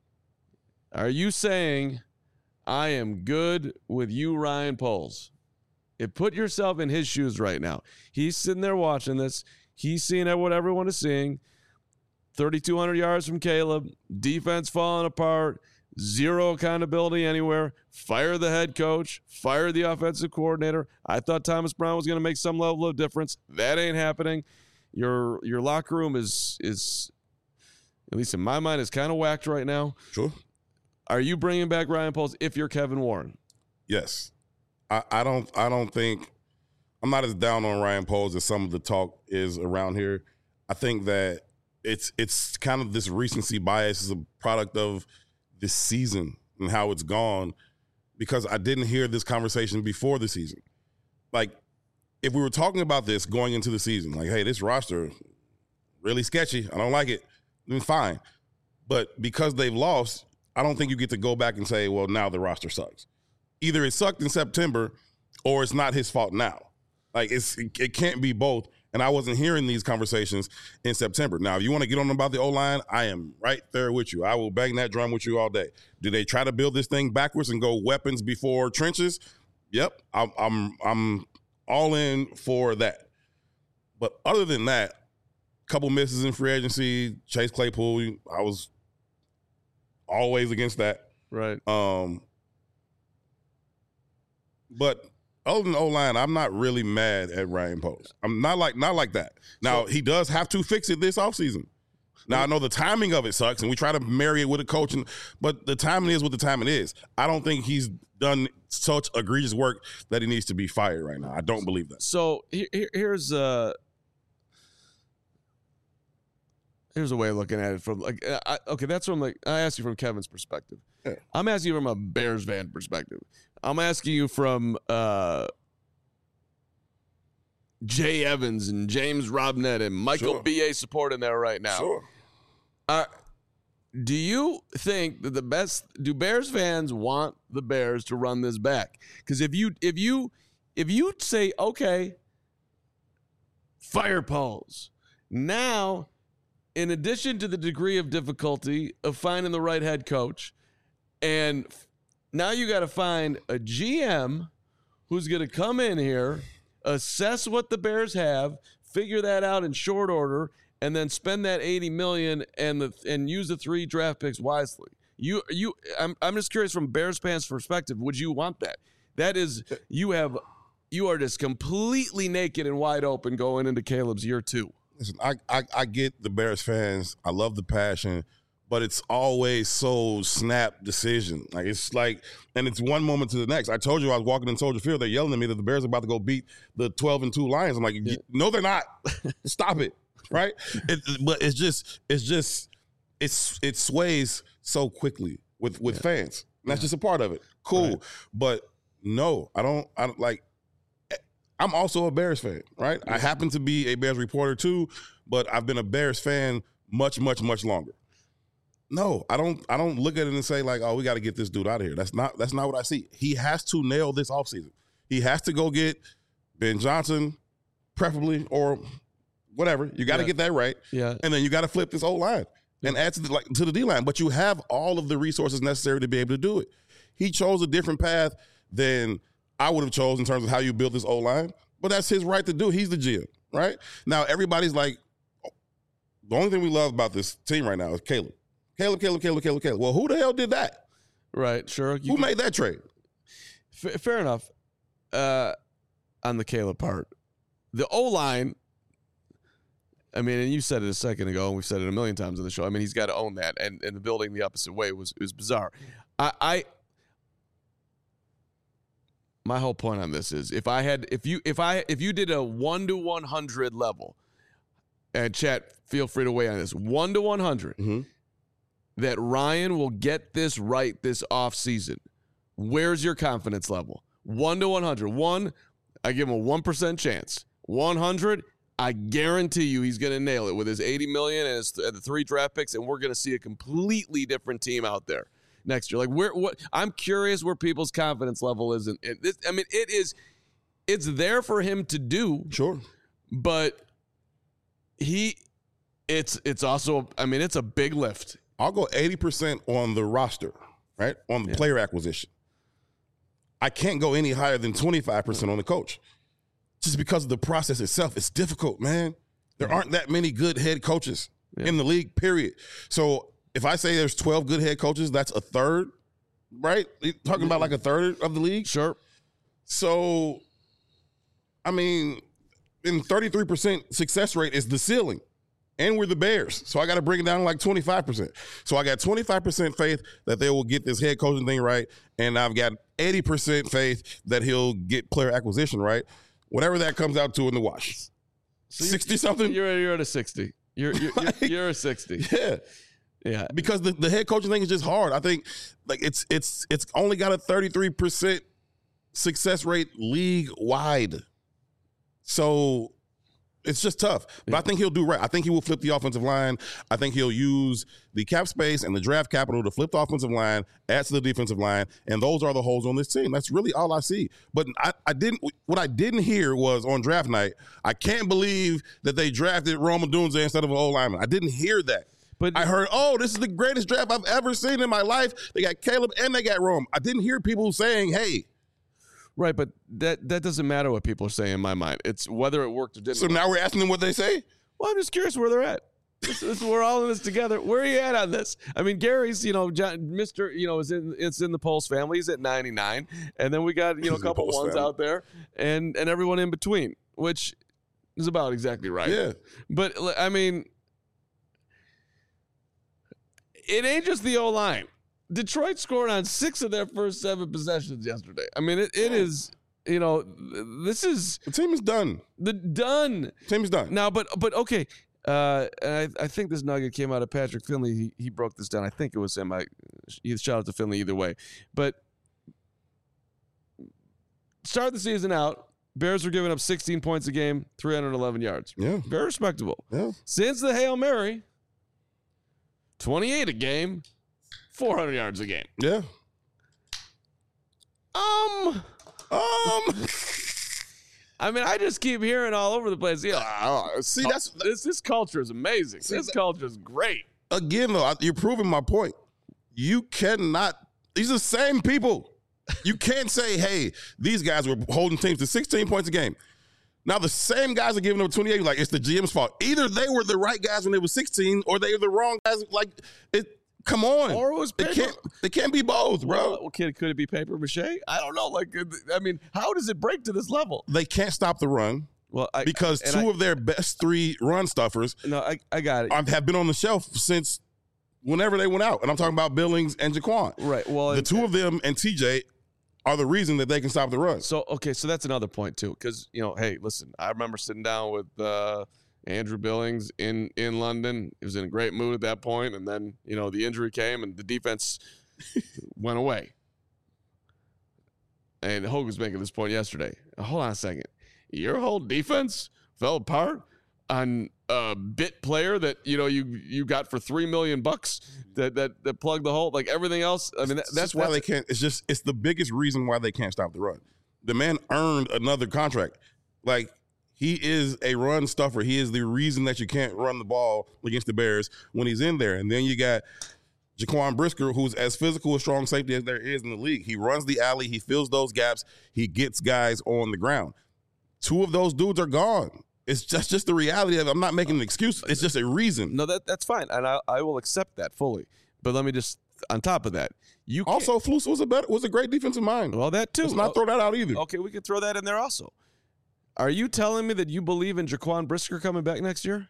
Are you saying, I am good with you, Ryan Poles? If put yourself in his shoes right now. He's sitting there watching this. He's seeing what everyone is seeing. thirty-two hundred yards from Caleb. Defense falling apart. Zero accountability anywhere. Fire the head coach. Fire the offensive coordinator. I thought Thomas Brown was going to make some level of difference. That ain't happening. Your your locker room is, is at least in my mind, is kind of whacked right now. Sure. Are you bringing back Ryan Poles if you're Kevin Warren? Yes. I, I don't I don't think – I'm not as down on Ryan Poles as some of the talk is around here. I think that it's it's kind of this recency bias is a product of this season and how it's gone because I didn't hear this conversation before the season. Like, if we were talking about this going into the season, like, hey, this roster really sketchy. I don't like it. Then fine. But because they've lost – I don't think you get to go back and say, well, now the roster sucks. Either it sucked in September or it's not his fault now. Like, it's it can't be both. And I wasn't hearing these conversations in September. Now, if you want to get on about the O-line, I am right there with you. I will bang that drum with you all day. Do they try to build this thing backwards and go weapons before trenches? Yep, I'm I'm, I'm all in for that. But other than that, couple misses in free agency, Chase Claypool, I was – always against that. Right. Um, but other than O-line, I'm not really mad at Ryan Poles. I'm not like not like that. Now, so, he does have to fix it this offseason. Now, I know the timing of it sucks, and we try to marry it with a coach, and, but the timing is what the timing is. I don't think he's done such egregious work that he needs to be fired right now. I don't believe that. So here, here's uh, here's a way of looking at it from like I, okay, that's from like I asked you from Kevin's perspective. Yeah. I'm asking you from a Bears fan perspective. I'm asking you from uh, Jay Evans and James Robnett and Michael Sure. B A support in there right now. Sure. Uh, do you think that the best do Bears fans want the Bears to run this back? Because if you if you if you say okay, fire Poles now, in addition to the degree of difficulty of finding the right head coach, and now you got to find a G M who's going to come in here, assess what the Bears have, figure that out in short order, and then spend that eighty million dollars and the and use the three draft picks wisely. You you I'm I'm just curious from Bears fans' perspective, would you want that? That is, you have you are just completely naked and wide open going into Caleb's year two. Listen, I, I I get the Bears fans. I love the passion, but it's always so snap decision. Like it's like, and it's one moment to the next. I told you I was walking in Soldier Field. They're yelling at me that the Bears are about to go beat the twelve and two Lions. I'm like, yeah. no, they're not. Stop it. Right. It, but it's just, it's just, it's it sways so quickly with with yeah. fans. And that's yeah. just a part of it. Cool, right. But no, I don't. I don't like. I'm also a Bears fan, right? I happen to be a Bears reporter too, but I've been a Bears fan much, much, much longer. No, I don't. I don't look at it and say like, "Oh, we got to get this dude out of here." That's not. That's not what I see. He has to nail this offseason. He has to go get Ben Johnson, preferably, or whatever. You got to yeah. get that right. Yeah, and then you got to flip this old line and add to the, like to the D line. But you have all of the resources necessary to be able to do it. He chose a different path than I would have chosen in terms of how you build this O line, but that's his right to do. He's the G M, right? Now everybody's like, oh, the only thing we love about this team right now is Caleb. Caleb, Caleb, Caleb, Caleb, Caleb. Well, who the hell did that? Right, sure. You who can, made that trade? F- fair enough. Uh, on the Caleb part, the O line. I mean, and you said it a second ago, and we've said it a million times on the show. I mean, he's got to own that, and and the building the opposite way was was bizarre. I. I My whole point on this is if I had if you if I if you did a one to one hundred level, and chat, feel free to weigh on this, one to one hundred, mm-hmm. that Ryan will get this right this offseason. Where's your confidence level? One to one hundred. One, I give him a one percent chance. One hundred, I guarantee you he's going to nail it with his eighty million and, his, and the three draft picks, and we're going to see a completely different team out there next year. Like where what I'm curious where people's confidence level is. And this, I mean, it is, it's there for him to do. Sure. But he, it's, it's also, I mean, it's a big lift. I'll go eighty percent on the roster, right? On the yeah. player acquisition. I can't go any higher than twenty-five percent on the coach. Just because of the process itself. It's difficult, man. There yeah. aren't that many good head coaches yeah. in the league, period. So, if I say there's twelve good head coaches, that's a third, right? You're talking about like a third of the league? Sure. So, I mean, in thirty-three percent success rate is the ceiling. And we're the Bears. So I got to bring it down to like twenty-five percent. So I got twenty-five percent faith that they will get this head coaching thing right. And I've got eighty percent faith that he'll get player acquisition right. Whatever that comes out to in the wash. So sixty-something? You're, you're at a sixty. You're, you're, like, you're, you're a sixty. Yeah. Yeah, because the, the head coaching thing is just hard. I think like it's it's it's only got a thirty-three percent success rate league wide. So it's just tough. But yeah. I think he'll do right. I think he will flip the offensive line. I think he'll use the cap space and the draft capital to flip the offensive line, add to the defensive line, and those are the holes on this team. That's really all I see. But I, I didn't what I didn't hear was on draft night, I can't believe that they drafted Rome Odunze instead of an O-lineman. I didn't hear that. But I heard, oh, this is the greatest draft I've ever seen in my life. They got Caleb and they got Rome. I didn't hear people saying, hey. Right, but that that doesn't matter what people are saying in my mind. It's whether it worked or didn't. So work. Now we're asking them what they say? Well, I'm just curious where they're at. This, this, we're all in this together. Where are you at on this? I mean, Gary's, you know, John, Mister, you know, is in it's in the Pulse family. He's at ninety-nine. And then we got, you know, a couple ones family. out there and, and everyone in between, which is about exactly right. Yeah. But, I mean, it ain't just the O-line. Detroit scored on six of their first seven possessions yesterday. I mean, it, it is, you know, this is... The team is done. The done. The team is done. Now, but, but okay, uh, I, I think this nugget came out of Patrick Finley. He, he broke this down. I think it was him. I, shout out to Finley either way. But start the season out, Bears were giving up sixteen points a game, three hundred eleven yards. Yeah. Very respectable. Yeah. Since the Hail Mary... twenty-eight a game, four hundred yards a game. Yeah. Um, um. I mean, I just keep hearing all over the place. Yeah, uh, see, that's this. This culture is amazing. See, this culture is great. Again, though, you're proving my point. You cannot. These are the same people. You can't say, "Hey, these guys were holding teams to sixteen points a game." Now the same guys are giving them twenty-eight. Like it's the G M's fault. Either they were the right guys when they were sixteen, or they were the wrong guys. Like it. Come on. Or it was paper. It can't. It can't be both, bro. Well, could, could it be paper mache? I don't know. Like, I mean, how does it break to this level? They can't stop the run. Well, I, because two I, of their best three run stuffers. No, I, I got it. Have been on the shelf since whenever they went out. And I'm talking about Billings and Jaquan. Right. Well, the and, two of them and T J are the reason that they can stop the run. So, okay, so that's another point, too, because, you know, hey, listen, I remember sitting down with uh, Andrew Billings in, in London. He was in a great mood at that point, and then, you know, the injury came and the defense went away. And Hogue was making this point yesterday. Hold on a second. Your whole defense fell apart on a bit player that, you know, you you got for three million bucks that that that plugged the hole. Like everything else, I mean, that, that's why that's, they can't. It's just it's the biggest reason why they can't stop the run. The man earned another contract. Like he is a run stuffer. He is the reason that you can't run the ball against the Bears when he's in there. And then you got Jaquan Brisker, who's as physical a strong safety as there is in the league. He runs the alley. He fills those gaps. He gets guys on the ground. Two of those dudes are gone. It's just, just the reality of it. I'm not making an excuse. It's just a reason. No, that that's fine, and I I will accept that fully. But let me just on top of that, you can't, also Flus was a better was a great defensive mind. well that too. Let's not throw that out either. Okay, we can throw that in there also. Are you telling me that you believe in Jaquan Brisker coming back next year?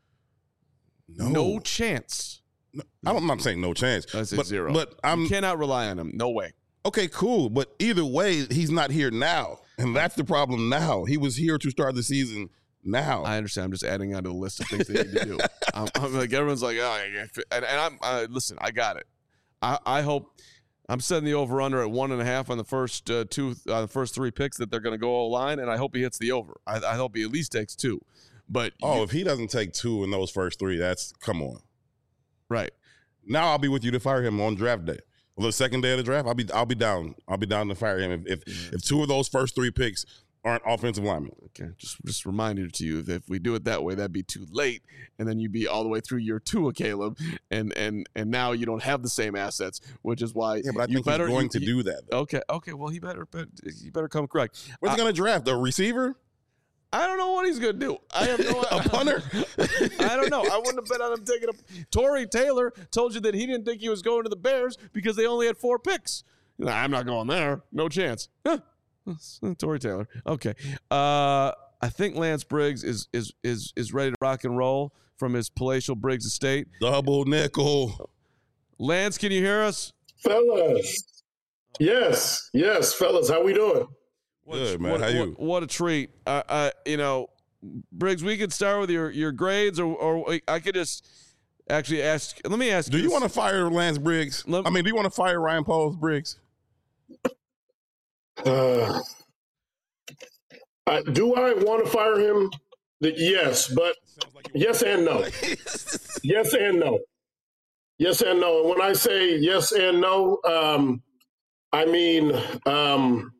No, No chance. No, I'm not saying no chance. I say but, zero. But I'm you cannot rely on him. No way. okay. Cool. But either way, he's not here now, and that's the problem. Now he was here to start the season. Now I understand. I'm just adding on to the list of things they need to do. I'm, I'm like everyone's like, oh, yeah. and, and I'm uh, listen. I got it. I, I hope I'm setting the over under at one and a half on the first uh, two, uh, the first three picks that they're going to go all line, and I hope he hits the over. I, I hope he at least takes two. But oh, you, if he doesn't take two in those first three, that's come on. right. Now I'll be with you to fire him on draft day. Well, the second day of the draft, I'll be I'll be down. I'll be down to fire him if if, if two of those first three picks aren't offensive linemen. Okay, just just reminder to you that if we do it that way, that'd be too late, and then you'd be all the way through year two of Caleb, and and and now you don't have the same assets, which is why Yeah, but I you think better he's going you, to you, do that. Though. Okay, okay, well he better, but he better come correct. What's I, he going to draft? A receiver? I don't know what he's gonna do. I have no A punter? I don't know. I wouldn't have bet on him taking a. Torrey Taylor told you that he didn't think he was going to the Bears because they only had four picks. Nah, I'm not going there. No chance. Huh. Torrey Taylor. Okay. Uh, I think Lance Briggs is is is is ready to rock and roll from his palatial Briggs estate. Double nickel. Lance, can you hear us? Fellas. Yes, yes, fellas. How we doing? What, Good, man. What, How what, you? what a treat. Uh, uh, you know, Briggs, we could start with your, your grades, or, or I could just actually ask. Let me ask Do you this. want to fire Lance Briggs? Let- I mean, do you want to fire Ryan Poles Briggs? Uh, I, do I want to fire him? The- Yes, but yes and no. Yes and no. Yes and no. And when I say yes and no, um, I mean um,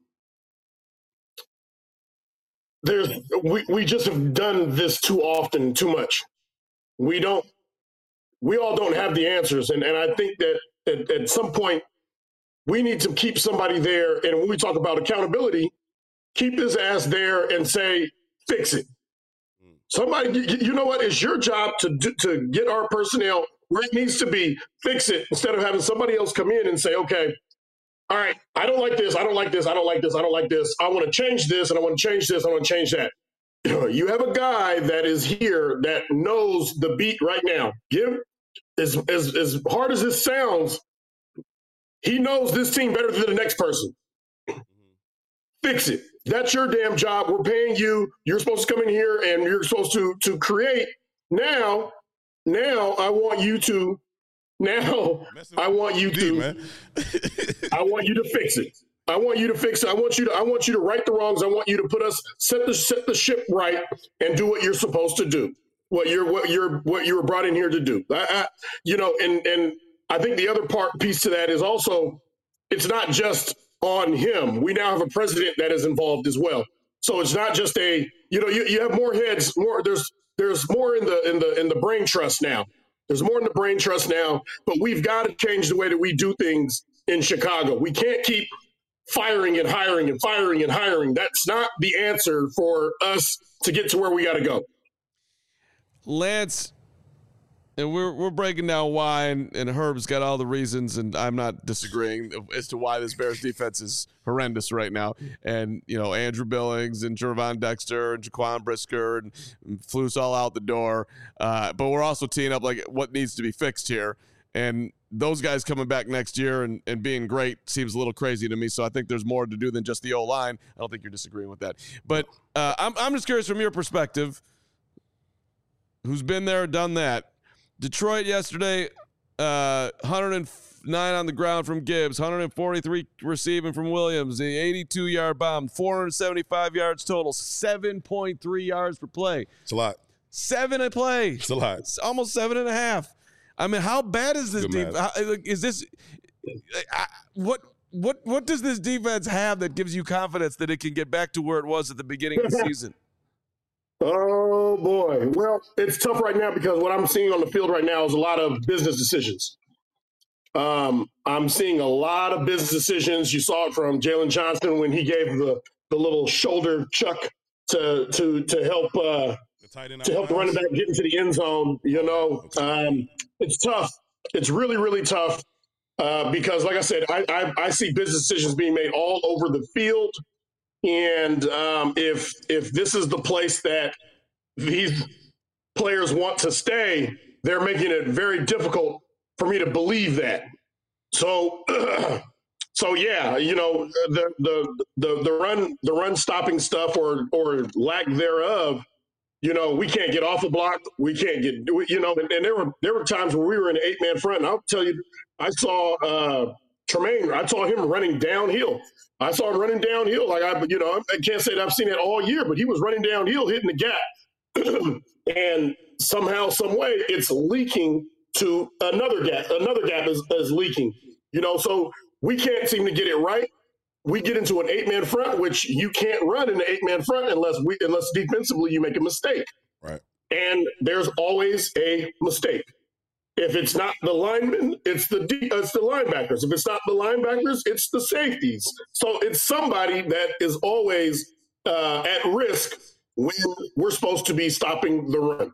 there's we, we just have done this too often, too much. We don't. We all don't have the answers, and and I think that at, at some point we need to keep somebody there. And when we talk about accountability, keep his ass there and say, fix it. Somebody, you, you know what? It's your job to do, to get our personnel where it needs to be, fix it, instead of having somebody else come in and say, okay, all right, I don't like this, I don't like this, I don't like this, I don't like this. I want to change this, and I want to change this, I want to change that. You have a guy that is here that knows the beat right now. Give as, as, as hard as this sounds, he knows this team better than the next person. Fix it. That's your damn job. We're paying you. You're supposed to come in here and you're supposed to to create. Now, now I want you to. Now I want you to. man. I want you to fix it. I want you to fix it. I want you to. I want you to right the wrongs. I want you to put us set the set the ship right and do what you're supposed to do. What you're what you're what you were brought in here to do. I, I, you know, and and I think the other part piece to that is also it's not just on him. We now have a president that is involved as well. So it's not just a, you know, you, you have more heads, more there's there's more in the in the in the brain trust now. There's more in the brain trust now, but we've got to change the way that we do things in Chicago. We can't keep firing and hiring and firing and hiring. That's not the answer for us to get to where we got to go. Lance, and we're we're breaking down why, and, and Herb's got all the reasons, and I'm not disagreeing as to why this Bears defense is horrendous right now. And, you know, Andrew Billings and Gervon Dexter and Jaquan Brisker and, and Flus all out the door. Uh, but we're also teeing up, like, what needs to be fixed here. And those guys coming back next year and, and being great seems a little crazy to me. So I think there's more to do than just the O-line. I don't think you're disagreeing with that. But uh, I'm, I'm just curious from your perspective, who's been there, done that. Detroit yesterday, uh, one hundred nine on the ground from Gibbs, one hundred forty-three receiving from Williams, the eighty-two-yard bomb, four hundred seventy-five yards total, seven point three yards per play. It's a lot. Seven a play. It's a lot. It's almost seven and a half. I mean, how bad is this defense? Is this I, what what what does this defense have that gives you confidence that it can get back to where it was at the beginning of the season? Oh boy. Well, it's tough right now because what I'm seeing on the field right now is a lot of business decisions. Um, I'm seeing a lot of business decisions. You saw it from Jalen Johnson when he gave the, the little shoulder chuck to to to help uh, to help the running back get into the end zone. You know, um, it's tough. It's really really tough uh, because, like I said, I, I I see business decisions being made all over the field. And um, if if this is the place that these players want to stay, they're making it very difficult for me to believe that. So, so yeah, you know, the the the the run the run stopping stuff or or lack thereof. You know, we can't get off a block. We can't get you know, and, and there were there were times where we were in an eight man front. And I'll tell you, I saw uh, Tremaine. I saw him running downhill. I saw him running downhill. Like I, you know, I can't say that I've seen it all year, but he was running downhill, hitting the gap, and somehow, some way, it's leaking to another gap. Another gap is, is leaking. You know, so we can't seem to get it right. We get into an eight-man front, which you can't run in an eight-man front unless we, unless defensively you make a mistake. Right. And there's always a mistake. If it's not the linemen, it's the it's the linebackers. If it's not the linebackers, it's the safeties. So it's somebody that is always uh, at risk when we're supposed to be stopping the run.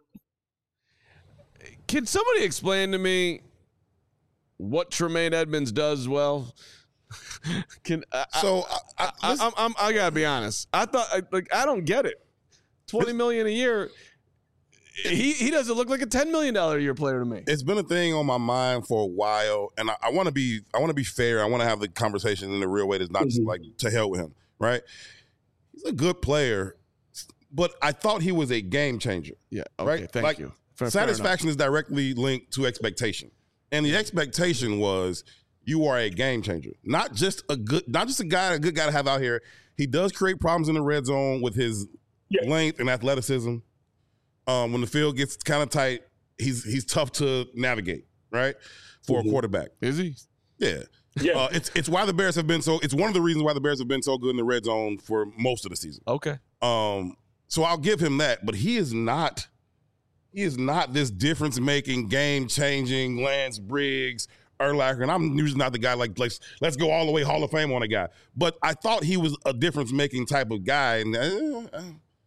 Can somebody explain to me what Tremaine Edmunds does well? Can I, so I, I, I, I, I'm, I gotta be honest. I thought I, like I don't get it. Twenty million a year. He he doesn't look like a ten million dollar a year player to me. It's been a thing on my mind for a while, and I, I want to be I want to be fair. I want to have the conversation in a real way that's not just like to hell with him, right? He's a good player, but I thought he was a game changer. Yeah. Okay. Right? Thank like, you. Fair, satisfaction is directly linked to expectation, and the expectation was you are a game changer, not just a good, not just a guy, a good guy to have out here. He does create problems in the red zone with his yeah. length and athleticism. Um, when the field gets kind of tight, he's he's tough to navigate, right? For mm-hmm. a quarterback. Is he? Yeah. Yeah. Uh, it's it's why the Bears have been so. It's one of the reasons why the Bears have been so good in the red zone for most of the season. Okay. Um. So I'll give him that, but he is not. He is not this difference-making, game-changing Lance Briggs, Urlacher, and I'm usually not the guy like let's let's go all the way Hall of Fame on a guy. But I thought he was a difference-making type of guy, and. Uh,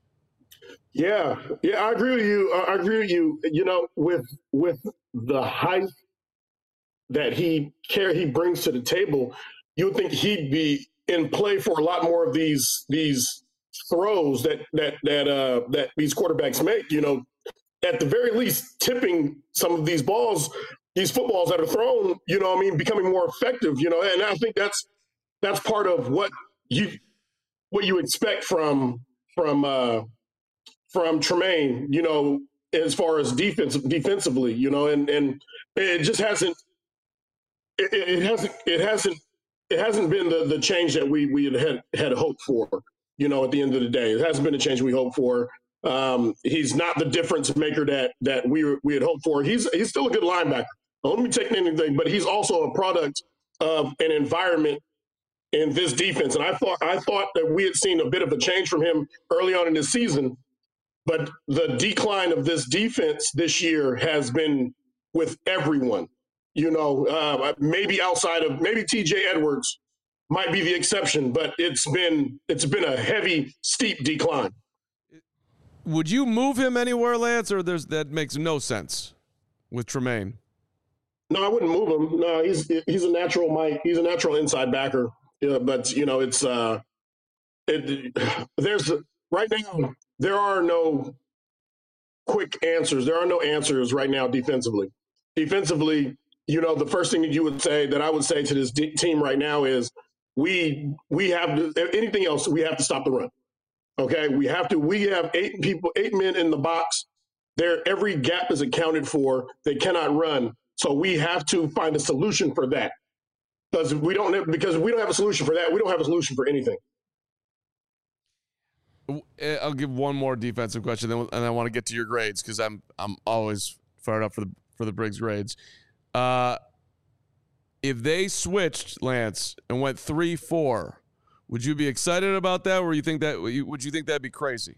Yeah, yeah, I agree with you. I agree with you. You know, with with the height that he care he brings to the table, you would think he'd be in play for a lot more of these these throws that that that uh, that these quarterbacks make. You know, at the very least, tipping some of these balls, these footballs that are thrown. You know, I mean, becoming more effective. You know, and I think that's that's part of what you what you expect from from. Uh, from Tremaine, you know, as far as defense, defensively, you know, and, and it just hasn't, it, it hasn't, it hasn't, it hasn't been the, the change that we, we had, had hoped for, you know, at the end of the day. It hasn't been the change we hoped for. Um, he's not the difference maker that, that we we had hoped for. He's, he's still a good linebacker. Don't let me take anything, but he's also a product of an environment in this defense. And I thought, I thought that we had seen a bit of a change from him early on in this season. But the decline of this defense this year has been with everyone, you know, uh, maybe outside of maybe T J Edwards might be the exception, but it's been it's been a heavy, steep decline. Would you move him anywhere, Lance, or there's that makes no sense with Tremaine? No, I wouldn't move him. No, he's he's a natural Mike. He's a natural inside backer. Yeah, but you know, it's uh, it, there's right now. There are no quick answers. There are no answers right now defensively. Defensively, you know, the first thing that you would say, that I would say to this d- team right now is we we have to, if anything else, we have to stop the run. Okay, we have to. We have eight people, eight men in the box. There, every gap is accounted for. They cannot run, so we have to find a solution for that. Because we don't, because we don't have a solution for that. We don't have a solution for anything. I'll give one more defensive question, then and I want to get to your grades because I'm I'm always fired up for the for the Briggs grades. Uh, if they switched, Lance, and went three four, would you be excited about that, or you think that would you think that'd be crazy?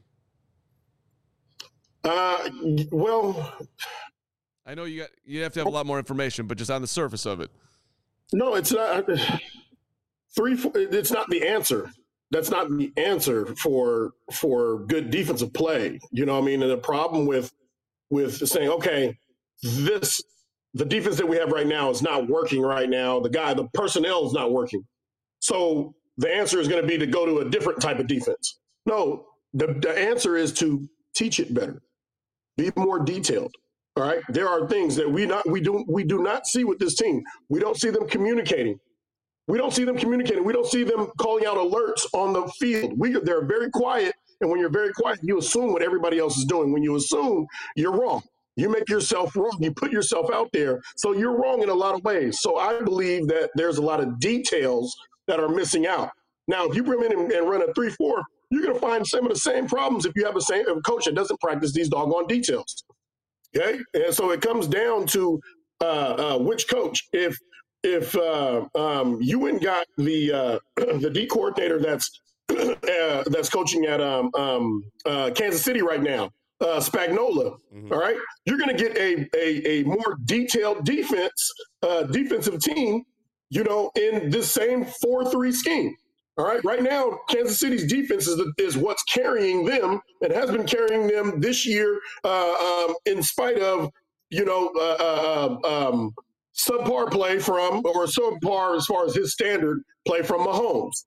Uh, well, I know you got you have to have a lot more information, but just on the surface of it. No, it's not three. It's not the answer. That's not the answer for for good defensive play. You know what I mean? And the problem with with saying, okay, this the defense that we have right now is not working right now. The guy, the personnel is not working. So the answer is going to be to go to a different type of defense. No, the, the answer is to teach it better, be more detailed. All right. There are things that we not we do we do not see with this team. We don't see them communicating. We don't see them communicating. We don't see them calling out alerts on the field. We they're very quiet, and when you're very quiet, you assume what everybody else is doing. When you assume, you're wrong. You make yourself wrong. You put yourself out there, so you're wrong in a lot of ways. So I believe that there's a lot of details that are missing out. Now, if you bring in and, and run a three four, you're going to find some of the same problems if you have a same a coach that doesn't practice these doggone details. Okay, and so it comes down to uh, uh, which coach. If if uh, um, you went and got the uh, the D coordinator that's uh, that's coaching at um, um, uh, Kansas City right now, uh, Spagnuolo, mm-hmm. all right, you're going to get a, a a more detailed defense uh, defensive team, you know, in this same four three scheme. All right. Right now, Kansas City's defense is, the, is what's carrying them and has been carrying them this year, uh, um, in spite of, you know, uh, uh, um, subpar play from, or subpar as far as his standard play from Mahomes.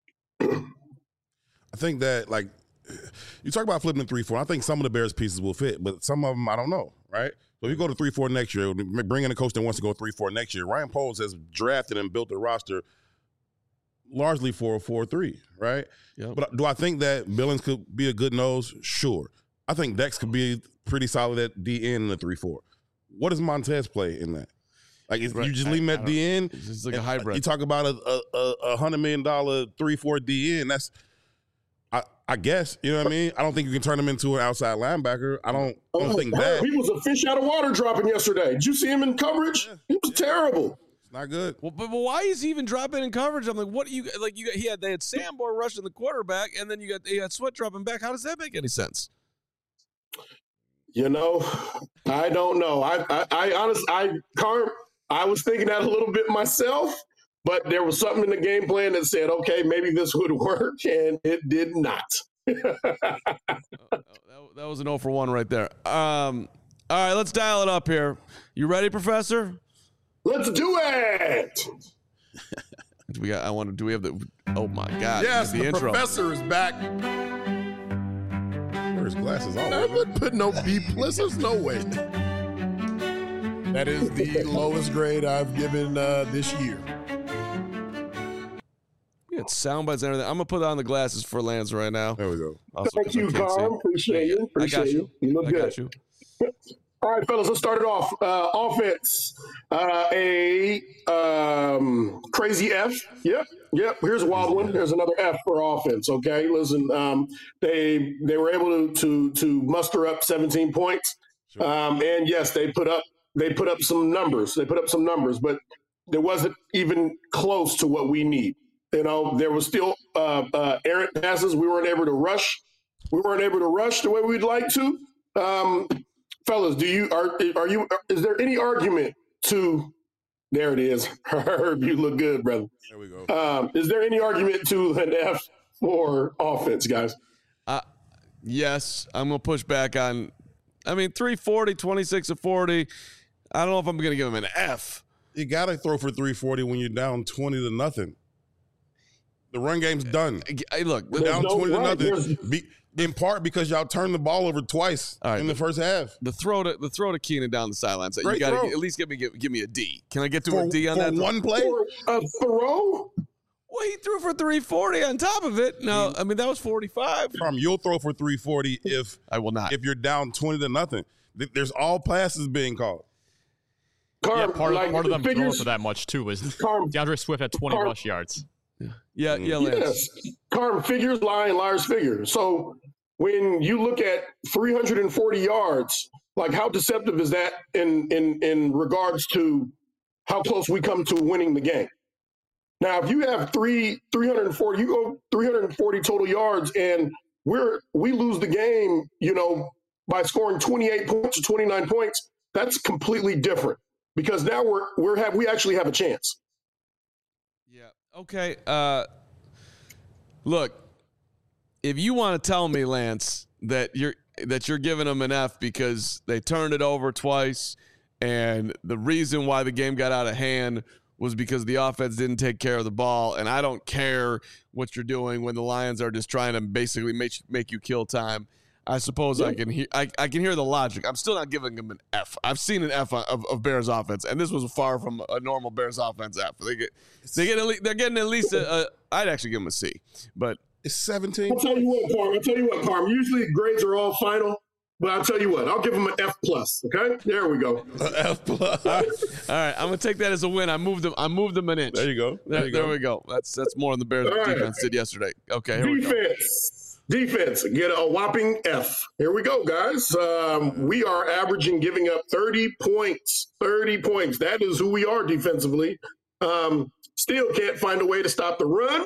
I think that, like, you talk about flipping to three four. I think some of the Bears pieces will fit, but some of them I don't know, right? So if you go to three four next year, bring in a coach that wants to go three four next year. Ryan Poles has drafted and built a roster largely for a four three, right? Yep. But do I think that Billings could be a good nose? Sure. I think Dex could be pretty solid at D N in the three four. What does Montez play in that? Like, if right. you just leave him at D N, it's just like a hybrid. You talk about a a, a hundred million dollar three four D N. That's, I, I guess, you know what I mean. I don't think you can turn him into an outside linebacker. I don't, I don't oh, think that. He was a fish out of water dropping yesterday. Did you see him in coverage? Yeah. He was yeah. terrible. Not good. Well, but, but why is he even dropping in coverage? I'm like, what do you like? You got, he had they had Sanborn rushing the quarterback, and then you got you got Sweat dropping back. How does that make any sense? You know, I don't know. I I, I honestly, I Carm, I was thinking that a little bit myself, but there was something in the game plan that said, okay, maybe this would work, and it did not. oh, that, that was an oh for one right there. Um, all right, let's dial it up here. You ready, Professor? Let's do it. do we got? I want to. Do we have the? Oh my God! Yes, the, the intro. Professor is back. Where's glasses on? I would put no B plus. There's no way. That is the lowest grade I've given uh, this year. We got sound bites and everything. I'm gonna put on the glasses for Lance right now. There we go. Also, Thank you, Carl. Appreciate you. Appreciate I got you. you. You look I good. Got you. All right, fellas, let's start it off. Uh, offense, uh, a um, crazy F. Yep, yep. Here's a wild one. There's another F for offense. Okay, listen. Um, they they were able to to to muster up seventeen points, um, and yes, they put up they put up some numbers. They put up some numbers, but there wasn't even close to what we need. You know, there was still uh, uh, errant passes. We weren't able to rush. We weren't able to rush the way we'd like to. Um, Fellas, do you are are you is there any argument to there it is. Herb, you look good, brother. There we go. Um, is there any argument to an F for offense, guys? Uh yes, I'm gonna push back on I mean three forty, twenty-six of forty. I don't know if I'm gonna give him an F. You gotta throw for three forty when you're down twenty to nothing. The run game's done. Hey, look, We're down no twenty to right. nothing. Be, in part because y'all turned the ball over twice All right, in the first half. the throw to the throw to Keenan down the sidelines. You Great got to throw. at least give me give, give me a D. Can I get to For, a D on for that? one play? For a throw? Well, he threw for three forty on top of it. No, I mean that was forty-five. Carm, you'll throw for three forty if I will not. if you're down twenty to nothing. Th- There's all passes being called. Carm, Yeah, part of, like, part of them throwing figures, for that much too was Carm, DeAndre Swift had twenty Carm- rush yards. yeah, yeah, Lance. Yes. Carm, figures lie and liars figure. So when you look at three hundred forty yards, like how deceptive is that in, in, in regards to how close we come to winning the game? Now, if you have three, 340, you go three hundred forty total yards and we're, we lose the game, you know, by scoring twenty-eight points or twenty-nine points, that's completely different because now we're, we're have, we actually have a chance. Yeah. Okay. Uh, look, if you want to tell me, Lance, that you're that you're giving them an F because they turned it over twice, and the reason why the game got out of hand was because the offense didn't take care of the ball, and I don't care what you're doing when the Lions are just trying to basically make make you kill time. I suppose I can hear I, I can hear the logic. I'm still not giving them an F. I've seen an F of, of Bears offense, and this was far from a normal Bears offense F. They get they get at least, they're getting at least a, a I'd actually give them a C, but It's seventeen. I'll tell you what, Carm. I'll tell you what, Carm. Usually grades are all final, but I'll tell you what. I'll give them an F plus. Okay, there we go. F plus. all right, I'm gonna take that as a win. I moved them. I moved them an inch. There you go. There, There, you there go. we go. That's that's more than the Bears All right. defense did yesterday. Okay, here we go. Defense. Defense. Get a whopping F. Here we go, guys. Um, we are averaging giving up thirty points. thirty points. That is who we are defensively. Um, still can't find a way to stop the run.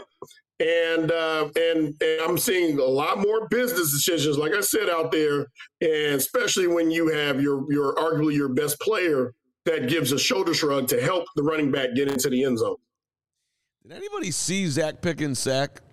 And, uh, and and I'm seeing a lot more business decisions, like I said, out there, and especially when you have your your arguably your best player that gives a shoulder shrug to help the running back get into the end zone. Did anybody see Zach Pickens sack?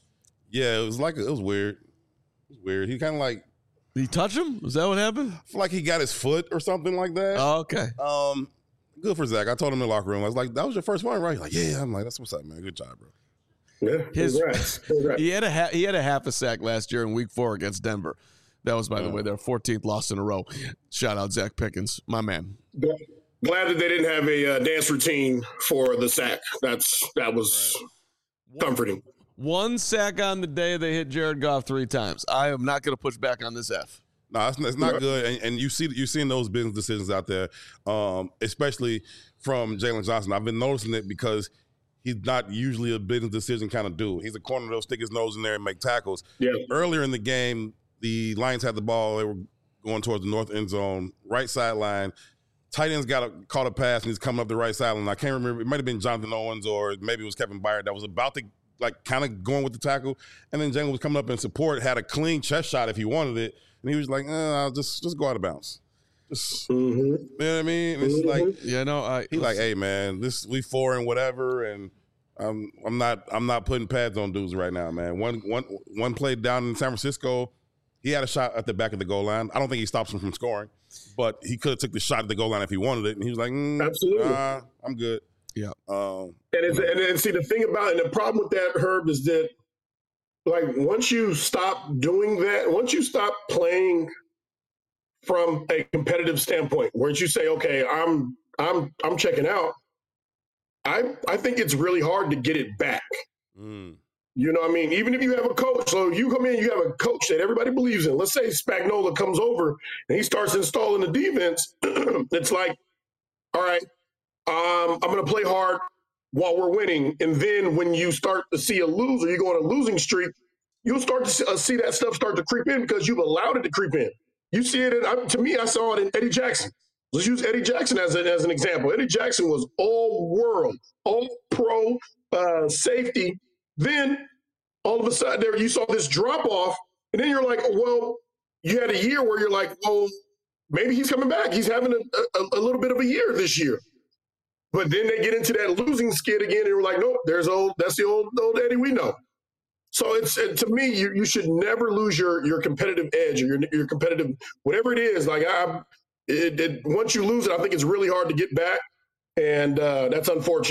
Yeah, it was like it was weird. It was weird. He kind of like Did he touch him? Was that what happened? I feel like he got his foot or something like that. Oh, okay. Um, good for Zach. I told him in the locker room. I was like, "That was your first one, right?" He's like, "Yeah." I'm like, "That's what's up, man. Good job, bro." Yeah, His- congrats. Congrats. He had a ha- he had a half a sack last year in Week Four against Denver. That was, by the way, their fourteenth loss in a row. Shout out Zach Pickens, my man. Glad that they didn't have a uh, dance routine for the sack. That's that was comforting. One sack on the day they hit Jared Goff three times. I am not going to push back on this F. No, it's, it's not Yeah. good. And, and you see, you're seeing those business decisions out there, um, especially from Jalen Johnson. I've been noticing it because he's not usually a business decision kind of dude. He's a corner that'll stick his nose in there and make tackles. Yeah. Earlier in the game, the Lions had the ball. They were going towards the north end zone, right sideline. Tight end's got a caught a pass and he's coming up the right sideline. I can't remember. It might have been Jonathan Owens or maybe it was Kevin Byard that was about to like kind of going with the tackle, and then Jalen was coming up in support, had a clean chest shot if he wanted it, and he was like, eh, I'll just just go out of bounds. Just, Mm-hmm. you know what I mean? It's Mhm. like Yeah, no, I. he like, hey man, this we four and whatever, and I'm I'm not I'm not putting pads on dudes right now, man. One one one play down in San Francisco, he had a shot at the back of the goal line. I don't think he stops him from scoring, but he could have took the shot at the goal line if he wanted it, and he was like, mm, Absolutely. nah, I'm good. Yeah. Um, And, it's, and and see the thing about and the problem with that, Herb, is that like once you stop doing that, once you stop playing from a competitive standpoint, where you say, okay, I'm I'm I'm checking out, I I think it's really hard to get it back. mm, You know what I mean? Even if you have a coach, so you come in, you have a coach that everybody believes in. Let's say Spagnuolo comes over and he starts installing the defense. It's like, all right, um, I'm going to play hard while we're winning. And then when you start to see a loser, you go on a losing streak, you'll start to see, uh, see that stuff start to creep in because you've allowed it to creep in. You see it, in, uh, to me, I saw it in Eddie Jackson. Let's use Eddie Jackson as, a, as an example. Eddie Jackson was all world, all pro uh, safety. Then all of a sudden there you saw this drop off, and then you're like, well, you had a year where you're like, well, maybe he's coming back. He's having a, a, a little bit of a year this year. But then they get into that losing skid again, and you're like, nope, there's old, that's the old old Eddie we know. So it's it, to me, you, you should never lose your your competitive edge or your your competitive whatever it is. Like I, it, it, once you lose it, I think it's really hard to get back, and uh, that's unfortunate.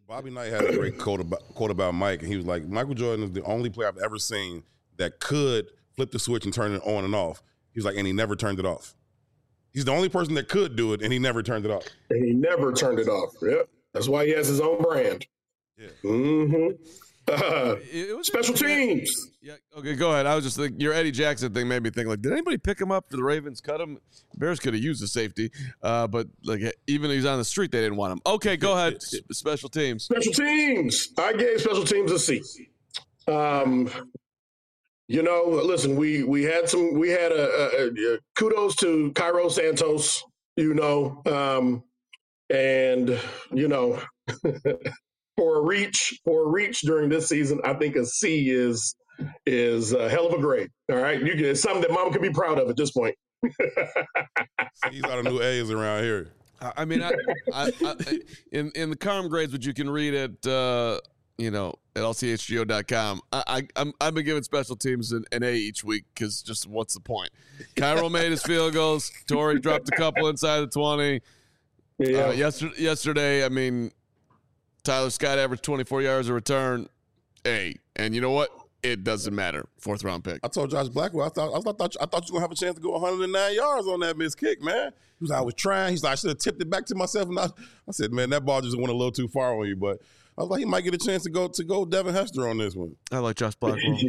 Bobby Knight had a great quote about, quote about Mike, and he was like, Michael Jordan is the only player I've ever seen that could flip the switch and turn it on and off. He was like, and he never turned it off. He's the only person that could do it, and he never turned it off. And he never turned it off. Yep. That's why he has his own brand. Yeah. Mm-hmm. Uh, It was special teams. Yeah. Okay, go ahead. I was just thinking, your Eddie Jackson thing made me think, like, did anybody pick him up for the Ravens? Cut him? Bears could have used a safety, uh, but like even if he's on the street, they didn't want him. Okay, go ahead. Special teams. Special teams. I gave special teams a C. Um, you know, listen, we we had some. We had a, a, a kudos to Cairo Santos. You know, um, and you know. For a reach, for a reach during this season, I think a C is is a hell of a grade. All right, you can, it's something that Mom can be proud of at this point. These are the new A's around here. I mean, I, I, I, in in the Carm grades, which you can read at uh, you know at L C H G O dot com, I, I I'm I've been giving special teams an, an A each week because just what's the point? Cairo made his field goals. Torrey dropped a couple inside the twenty. Yeah. Uh, yesterday, yesterday, I mean. Tyler Scott averaged twenty-four yards a return, A. And you know what? It doesn't matter. Fourth round pick. I told Josh Blackwell, I thought I thought I thought you were gonna have a chance to go one hundred nine yards on that missed kick, man. He was like, I was trying. He's like, I should have tipped it back to myself. And I, I said, man, that ball just went a little too far on you. But I was like, he might get a chance to go to go Devin Hester on this one. I like Josh Blackwell.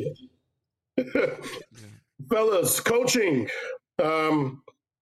Fellas, coaching um,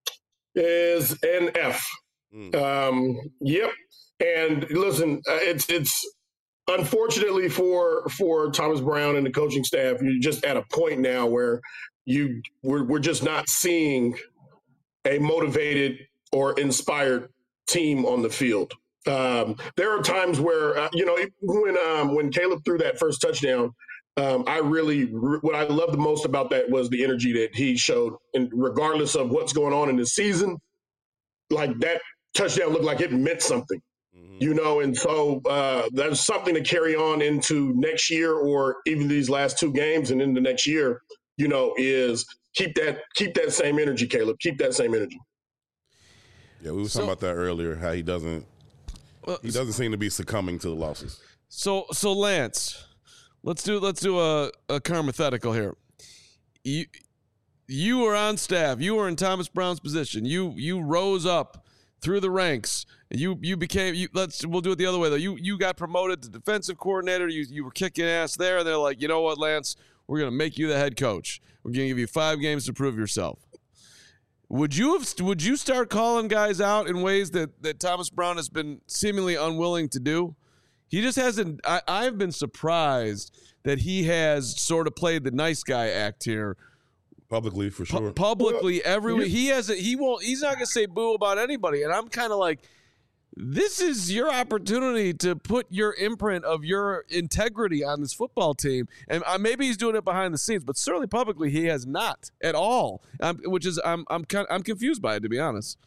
is an F. Mm. Um, yep. And listen, uh, it's it's unfortunately for for Thomas Brown and the coaching staff, you're just at a point now where you we're we're just not seeing a motivated or inspired team on the field. Um, there are times where uh, you know when um, when Caleb threw that first touchdown, um, I really what I loved the most about that was the energy that he showed, and regardless of what's going on in the season, like that touchdown looked like it meant something. You know, and so uh, that's something to carry on into next year or even these last two games and into next year, you know, is keep that keep that same energy, Caleb. Keep that same energy. Yeah, we were so, talking about that earlier, how he doesn't well, he doesn't seem to be succumbing to the losses. So so Lance, let's do let's do a, a hypothetical here. You you were on staff, you were in Thomas Brown's position, you you rose up through the ranks. You you became you. Let's we'll do it the other way though. You you got promoted to defensive coordinator. You you were kicking ass there, and they're like, you know what, Lance, we're gonna make you the head coach. We're gonna give you five games to prove yourself. Would you have would you start calling guys out in ways that that Thomas Brown has been seemingly unwilling to do? He just hasn't. I, I've been surprised that he has sort of played the nice guy act here. Publicly, for sure. Pu- publicly, everywhere. He has. A, he won't. He's not gonna say boo about anybody. And I'm kind of like, this is your opportunity to put your imprint of your integrity on this football team. And uh, maybe he's doing it behind the scenes, but certainly publicly he has not at all. Um, which is I'm I'm kind I'm confused by it, to be honest.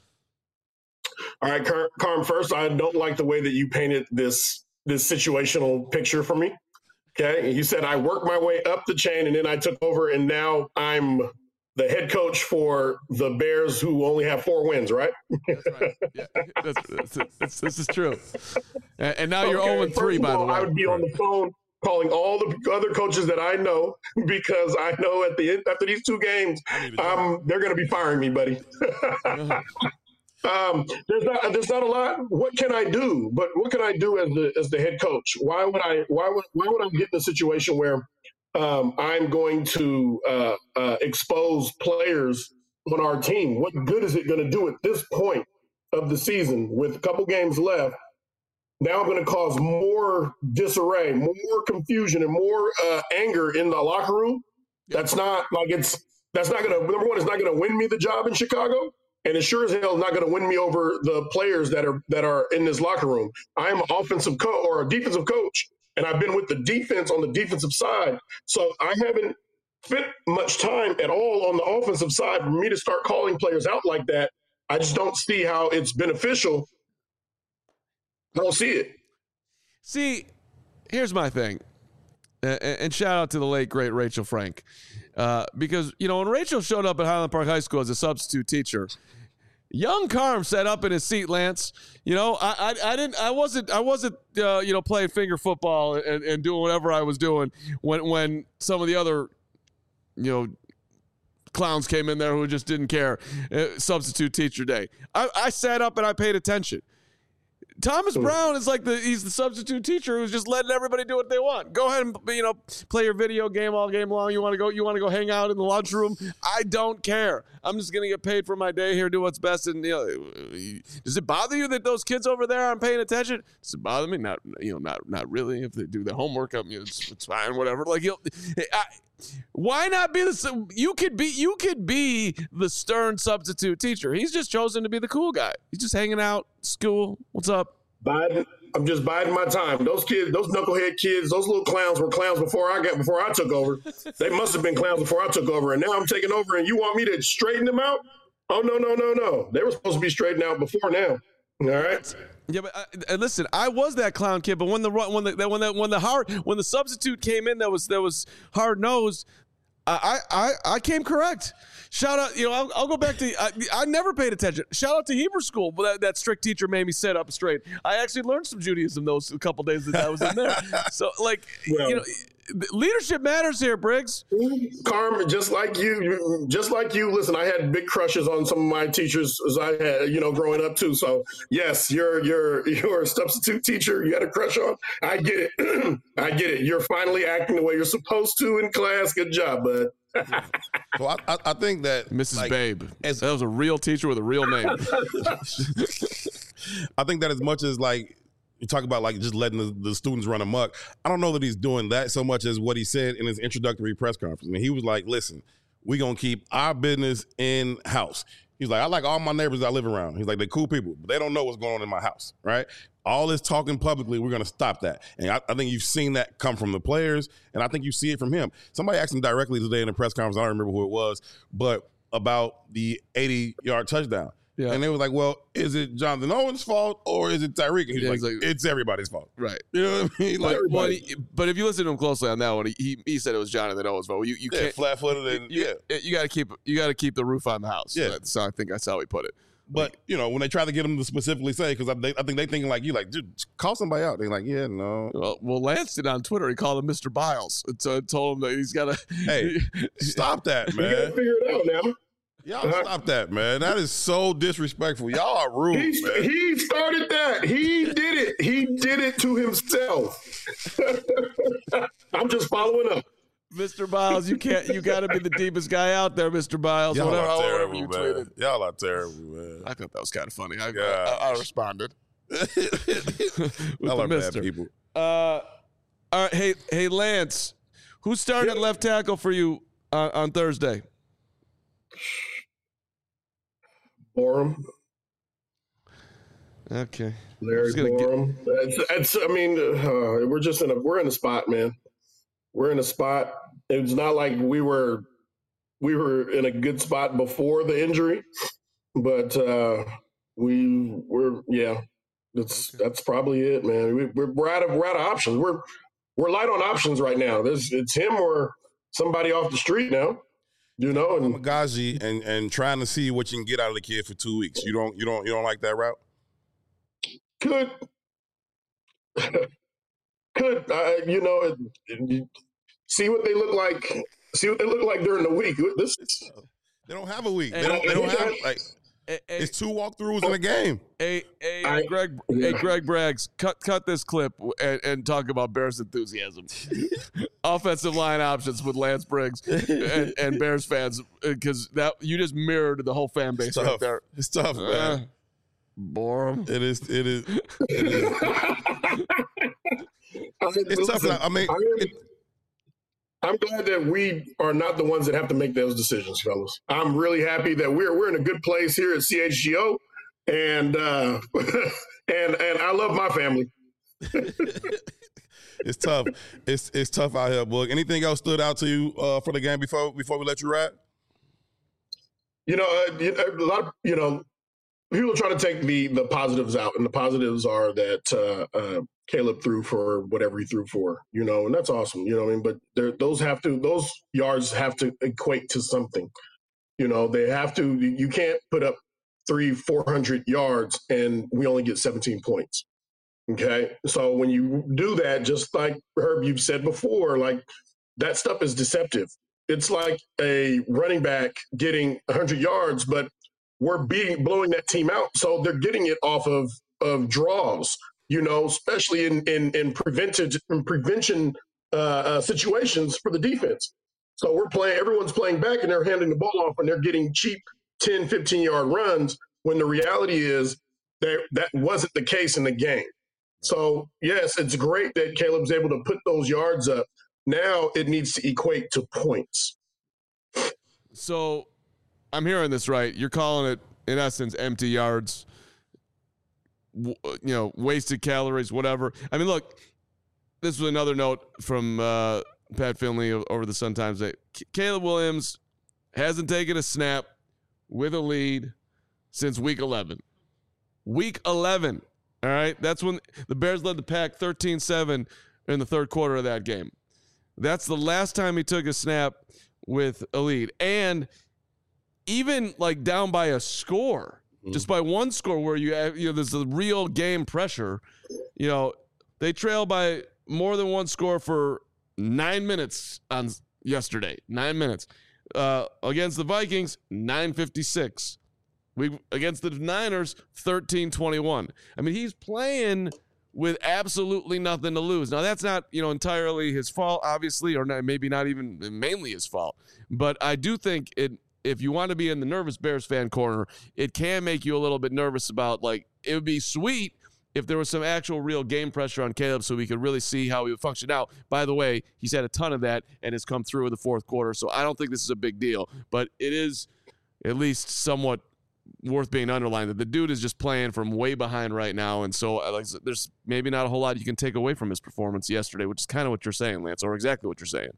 All right, Car- Carm. First, I don't like the way that you painted this this situational picture for me. Okay, you said I worked my way up the chain and then I took over, and now I'm the head coach for the Bears, who only have four wins, right? That's right. Yeah, that's, that's, that's, this is true. And, and now you're okay, oh and three, by all, the way. I would be on the phone calling all the other coaches that I know because I know at the end, after these two games, um, they're going to be firing me, buddy. Um, there's not there's not a lot. What can I do? But what can I do as the as the head coach? Why would I why would why would I get in a situation where um, I'm going to uh, uh, expose players on our team? What good is it going to do at this point of the season with a couple games left? Now I'm going to cause more disarray, more confusion, and more uh, anger in the locker room. That's not like it's that's not going to number one. It's not going to win me the job in Chicago. And it sure as hell is not going to win me over the players that are that are in this locker room. I am an offensive coach or a defensive coach, and I've been with the defense on the defensive side. So I haven't spent much time at all on the offensive side for me to start calling players out like that. I just don't see how it's beneficial. I don't see it. See, here's my thing. And, and shout out to the late, great Rachel Frank. Uh, because, you know, when Rachel showed up at Highland Park High School as a substitute teacher, Young Carm sat up in his seat, Lance. You know, I, I, I didn't, I wasn't, I wasn't, uh, you know, playing finger football and, and doing whatever I was doing when, when some of the other, you know, clowns came in there who just didn't care. Uh, substitute teacher day. I, I sat up and I paid attention. Thomas Brown is like the he's the substitute teacher who's just letting everybody do what they want. Go ahead and, you know, play your video game all game long. You want to go you want to go hang out in the lunchroom? I don't care. I'm just going to get paid for my day here, do what's best. And, you know, does it bother you that those kids over there aren't paying attention? Does it bother me? Not, you know, not not really. If they do their homework, I mean, it's, it's fine, whatever. Like, you know, I, why not be the you could be you could be the stern substitute teacher. He's just chosen to be the cool guy. He's just hanging out, school. What's up? Biden, I'm just biding my time. Those kids, those knucklehead kids, those little clowns were clowns before I got before I took over. They must have been clowns before I took over, and now I'm taking over. And you want me to straighten them out? Oh no, no, no, no! They were supposed to be straightened out before now. All right. Yeah, but uh, listen, I was that clown kid, but when the when the when the when the hard when the substitute came in, that was that was hard nosed. I I I came correct. Shout out, you know, I'll, I'll go back to, I, I never paid attention. Shout out to Hebrew school. That, that strict teacher made me sit up straight. I actually learned some Judaism those a couple days that I was in there. So, like, well, you know, leadership matters here, Briggs. Carm, just like you, just like you, listen, I had big crushes on some of my teachers as I had, you know, growing up too. So yes, you're, you're, you're a substitute teacher. You had a crush on. I get it. I get it. You're finally acting the way you're supposed to in class. Good job, bud. So I, I, I think that Missus Like, Babe, as, that was a real teacher with a real name. I think that as much as like you talk about like just letting the, the students run amok, I don't know that he's doing that so much as what he said in his introductory press conference. I mean, he was like, listen, we're going to keep our business in house. He's like, I like all my neighbors I live around. He's like, they're cool people, but they don't know what's going on in my house, right? All this talking publicly, we're going to stop that. And I, I think you've seen that come from the players, and I think you see it from him. Somebody asked him directly today in the press conference, I don't remember who it was, but about the eighty-yard touchdown. Yeah. And they was like, well, is it Jonathan Owens' fault or is it Tyreek? And he's Yeah, like, he's like- it's everybody's fault. Right. You know what I mean? Like, But, but, he, but if you listen to him closely on that one, he he, he said it was Jonathan Owens' fault. You you yeah, can't flat-footed and, you, yeah. you got to keep you got to keep the roof on the house. Yeah. That's, I think that's how he put it. But, you know, when they try to get him to specifically say, because I, they- I think they thinking like you, like, dude, call somebody out. They're like, yeah, no. Well, well, Lance did on Twitter. He called him Mister Biles. And so told him that he's got to. Hey, stop that, You got to man. figure it out now. Y'all stop that, man. That is so disrespectful. Y'all are rude, He, man. he started that. He did it. He did it to himself. I'm just following up. Mister Biles, you can't. You got to be the deepest guy out there, Mister Biles. Y'all whatever, are whatever terrible, you man. tweeted. Y'all are terrible, man. I thought that was kind of funny. I, I, Gosh. I responded. With Y'all the are bad mister. people. Uh, all right, hey, hey, Lance, who started Yeah. left tackle for you on, on Thursday? Borum, Okay, Larry Just gonna get- Borum. It's, it's, I mean, uh, we're just in a we're in a spot, man. We're in a spot. It's not like we were we were in a good spot before the injury, but uh, we we're yeah. That's that's probably it, man. We, we're we're out of we're out of options. We're we're light on options right now. There's it's him or somebody off the street now. You know, and Magaji and and trying to see what you can get out of the kid for two weeks. You don't you don't you don't like that route? could could uh, you know it, it- see what they look like. See what they look like during the week. This They don't have a week. They Hey, don't. They don't have like. Hey, hey, It's two walkthroughs in a game. hey, hey, I- Greg, hey, Greg Braggs, cut cut this clip and, and talk about Bears enthusiasm. Offensive line options with Lance Briggs and, and Bears fans, because that you just mirrored the whole fan base It's right tough. there. It's tough, Uh, man. bore 'em. It is. It is. It is. It's tough. Listen, I mean, I'm, it, I'm glad that we are not the ones that have to make those decisions, fellas. I'm really happy that we're we're in a good place here at C H G O, and uh, and and I love my family. it's tough. It's it's tough out here, book. Anything else stood out to you uh, for the game before before we let you ride? You know, uh, you know, a lot of you know people are trying to take the the positives out, and the positives are that uh, uh, Caleb threw for whatever he threw for, you know, and that's awesome, you know what I mean? But there- those have to those yards have to equate to something, you know. They have to. You can't put up three, four hundred yards, and we only get seventeen points. Okay. So when you do that, just like Herb, you've said before, like that stuff is deceptive. It's like a running back getting one hundred yards, but we're beating, blowing that team out. So they're getting it off of, of draws, you know, especially in, in, in, prevented, in prevention uh, uh, situations for the defense. So we're playing, everyone's playing back and they're handing the ball off and they're getting cheap ten, fifteen yard runs when the reality is that that wasn't the case in the game. So, yes, it's great that Caleb's able to put those yards up. Now it needs to equate to points. So I'm hearing this right. You're calling it, in essence, empty yards, you know, wasted calories, whatever. I mean, look, this was another note from uh, Pat Finley over the Sun Times that Caleb Williams hasn't taken a snap with a lead since week eleven. Week eleven. All right, that's when the Bears led the pack thirteen seven in the third quarter of that game. That's the last time he took a snap with a lead. And even like down by a score, mm. just by one score where you have, you know, there's a real game pressure, you know, they trail by more than one score for nine minutes on yesterday. Nine minutes. Uh, against the Vikings, nine fifty-six. We against the Niners, thirteen twenty-one. I mean, he's playing with absolutely nothing to lose. Now, that's not, you know, entirely his fault, obviously, or not, maybe not even mainly his fault. But I do think it, if you want to be in the nervous Bears fan corner, it can make you a little bit nervous about, like, it would be sweet if there was some actual real game pressure on Caleb so we could really see how he would function. Now, by the way, he's had a ton of that and has come through in the fourth quarter, so I don't think this is a big deal. But it is at least somewhat worth being underlined that the dude is just playing from way behind right now, and so like there's maybe not a whole lot you can take away from his performance yesterday, which is kind of what you're saying, Lance, or exactly what you're saying.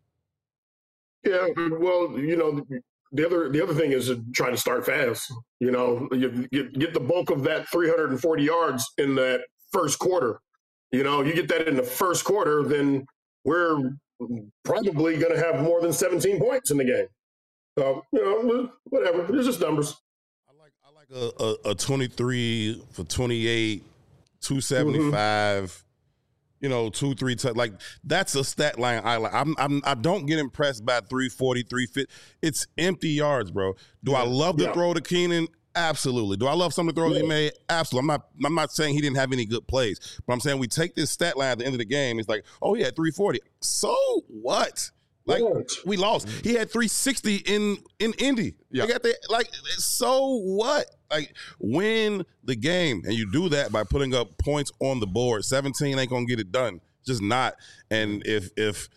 Yeah, well, you know, the other the other thing is to try to start fast. You know, you get get the bulk of that three hundred forty yards in that first quarter. You know, you get that in the first quarter, then we're probably going to have more than seventeen points in the game. So, you know, whatever. It's just numbers. A, a, a twenty-three for twenty-eight, two seventy-five, mm-hmm. you know, two, three, t- like that's a stat line I like. I'm, I'm, I don't get impressed by three forty, three fifty. It's empty yards, bro. Do I love the yeah. throw to Keenan? Absolutely. Do I love some of the throws yeah. he made? Absolutely. I'm not, I'm not saying he didn't have any good plays, but I'm saying we take this stat line at the end of the game. It's like, oh, yeah, three forty. So what? Like, we lost. He had three sixty in in Indy. Yeah. They got the, like, so what? Like, win the game. And you do that by putting up points on the board. seventeen ain't going to get it done. Just not. And if if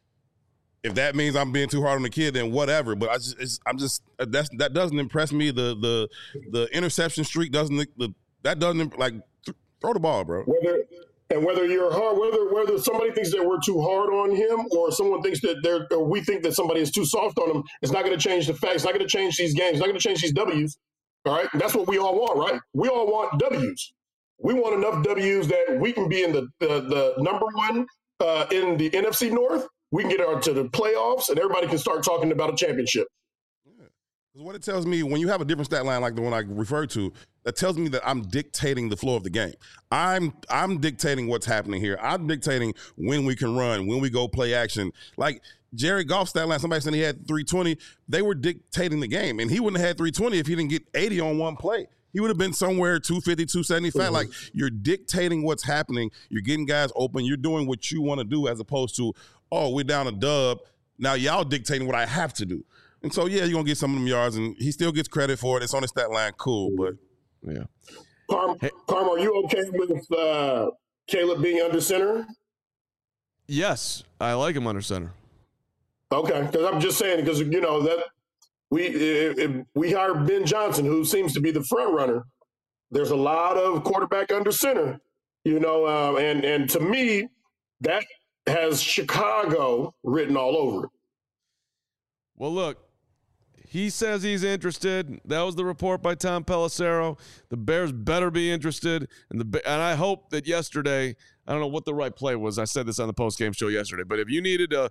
if that means I'm being too hard on the kid, then whatever. But I just, it's, I'm just, that's, that doesn't impress me. The the the interception streak doesn't, the, that doesn't, like, th- throw the ball, bro. Whether And whether you're hard, whether whether somebody thinks that we're too hard on him, or someone thinks that they're, or we think that somebody is too soft on him, it's not going to change the facts. It's not going to change these games. It's not going to change these W's. All right, and that's what we all want, right? We all want W's. We want enough W's that we can be in the the, the number one uh, in the N F C North. We can get on to the playoffs, and everybody can start talking about a championship. Because what it tells me, when you have a different stat line like the one I referred to, that tells me that I'm dictating the flow of the game. I'm I'm dictating what's happening here. I'm dictating when we can run, when we go play action. Like Jared Goff's stat line, somebody said he had three twenty. They were dictating the game, and he wouldn't have had three twenty if he didn't get eighty on one play. He would have been somewhere two fifty, two seventy-five. Mm-hmm. Like, you're dictating what's happening. You're getting guys open. You're doing what you want to do, as opposed to, oh, we're down a dub. Now y'all dictating what I have to do. And so, yeah, you're going to get some of them yards, and he still gets credit for it. It's on his stat line. Cool, but, yeah. Carm, hey. Carm, are you okay with uh, Caleb being under center? Yes, I like him under center. Okay, because I'm just saying, because, you know, that we if, if we hired Ben Johnson, who seems to be the front runner. There's a lot of quarterback under center, you know, uh, and, and to me, that has Chicago written all over it. Well, look. He says he's interested. That was the report by Tom Pelissero. The Bears better be interested. And the and I hope that yesterday, I don't know what the right play was. I said this on the postgame show yesterday. But if you needed to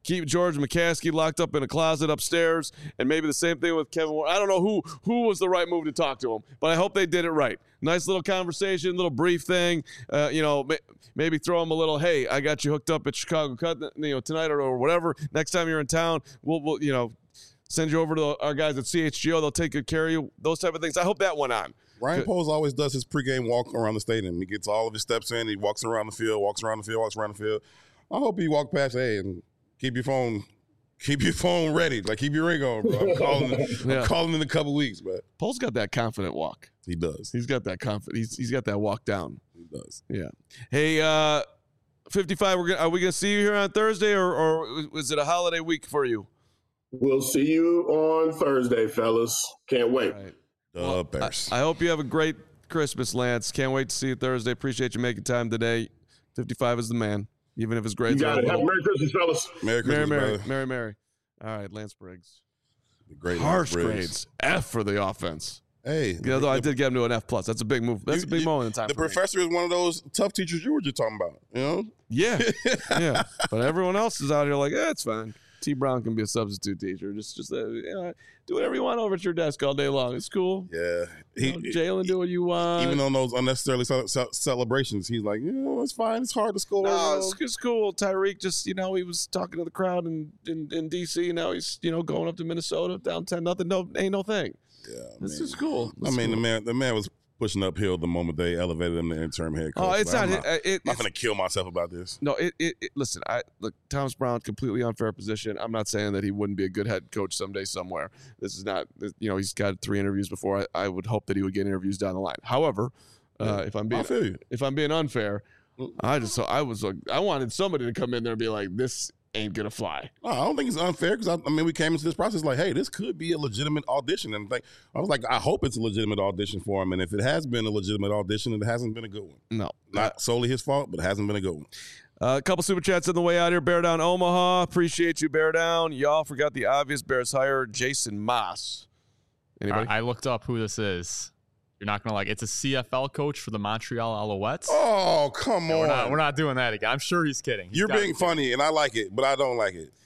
keep George McCaskey locked up in a closet upstairs, and maybe the same thing with Kevin Warren. I don't know who who was the right move to talk to him, but I hope they did it right. Nice little conversation, little brief thing. Uh, you know, maybe throw him a little, hey, I got you hooked up at Chicago Cut, you know, tonight or, or whatever. Next time you're in town, we'll, we'll you know, send you over to our guys at C H G O. They'll take good care of you. Those type of things. I hope that went on. Ryan Poles always does his pregame walk around the stadium. He gets all of his steps in. He walks around the field, walks around the field, walks around the field. I hope he walked past, hey, and keep your phone, keep your phone ready. Like, keep your ring on, bro. I'm calling, yeah. I'm calling in a couple weeks, but Poles got that confident walk. He does. He's got that confident. He's he's got that walk down. He does. Yeah. Hey, uh, fifty-five. We're gonna, are we gonna see you here on Thursday, or or is it a holiday week for you? We'll see you on Thursday, fellas. Can't wait. All right. The Well, Bears. I, I hope you have a great Christmas, Lance. Can't wait to see you Thursday. Appreciate you making time today. fifty-five is the man, even if his grades You are got a it. Have little. a Merry Christmas, fellas. Merry Mary, Christmas, Mary, brother. Mary, Mary. All right, Lance Briggs. The great Harsh Briggs. grades. F for the offense. Hey. Yeah, though I did get him to an F plus. That's a big move. That's You- a big you- moment in time. The for me. professor is one of those tough teachers you were just talking about, you know? Yeah, yeah. But everyone else is out here like, eh, it's fine. T. Brown can be a substitute teacher. Just, just uh, you know, do whatever you want over at your desk all day long. It's cool. Yeah. You He, know, Jalen, do what you want. even on those unnecessarily ce- ce- celebrations, he's like, you know, it's fine. It's hard to score. No, it's, it's cool. Tyreek just, you know, he was talking to the crowd in, in, in D C. Now he's, you know, going up to Minnesota, down ten nothing. No, ain't no thing. Yeah, This man. is cool. I This mean, is the cool. man, the man was pushing uphill the moment they elevated him to interim head coach. Oh, it's Like, not. I'm not, It, it, I'm not it's- gonna kill myself about this. No, it, it, it. Listen, I look. Thomas Brown, completely unfair position. I'm not saying that he wouldn't be a good head coach someday somewhere. This is not. You know, he's got three interviews before. I, I would hope that he would get interviews down the line. However, uh, if I'm I being feel you. if I'm being unfair, I just I was like I wanted somebody to come in there and be like, this ain't gonna fly. No, I don't think it's unfair because I, I mean we came into this process like, hey, this could be a legitimate audition, and like I was like, I hope it's a legitimate audition for him, and if it has been a legitimate audition, it hasn't been a good one. No, Not solely his fault, but it hasn't been a good one. Uh, a couple super chats on the way out here. Bear Down Omaha. Appreciate you, Bear Down. Y'all forgot the obvious. Bears hire Jason Moss. Anybody? I, I looked up who this is. You're not gonna like. It's a C F L coach for the Montreal Alouettes. Oh, come No, on. we're not. We're not doing that again. I'm sure he's kidding. He's You're gotta being be kidding. funny, and I like it, but I don't like it.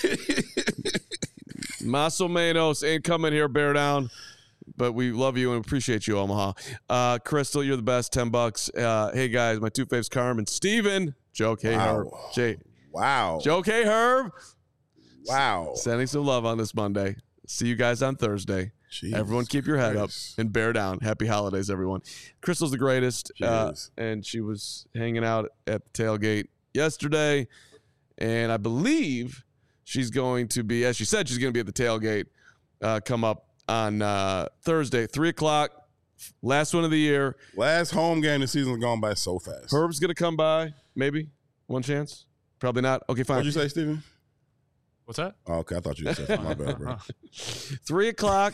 Maso Manos ain't coming here, Bear Down. But we love you and appreciate you, Omaha. Uh, Crystal, you're the best. Ten bucks. Uh, hey guys, my two faves, Carmen, Steven, Joke, hey Wow. Herb, Jay, Wow. Joke, hey Herb. Wow. Sending some love on this Monday. See you guys on Thursday. Jesus Everyone keep your head Christ. up and bear down. Happy holidays, everyone. Crystal's the greatest. She uh, is. and she was hanging out at the tailgate yesterday. And I believe she's going to be, as she said, she's going to be at the tailgate uh, come up on uh, Thursday, three o'clock. Last one of the year. Last home game the season's gone by so fast. Herb's going to come by, maybe. One chance. Probably not. Okay, fine. What'd you say, Steven? What's that? Oh, okay, I thought you said my bad, bro. Three o'clock.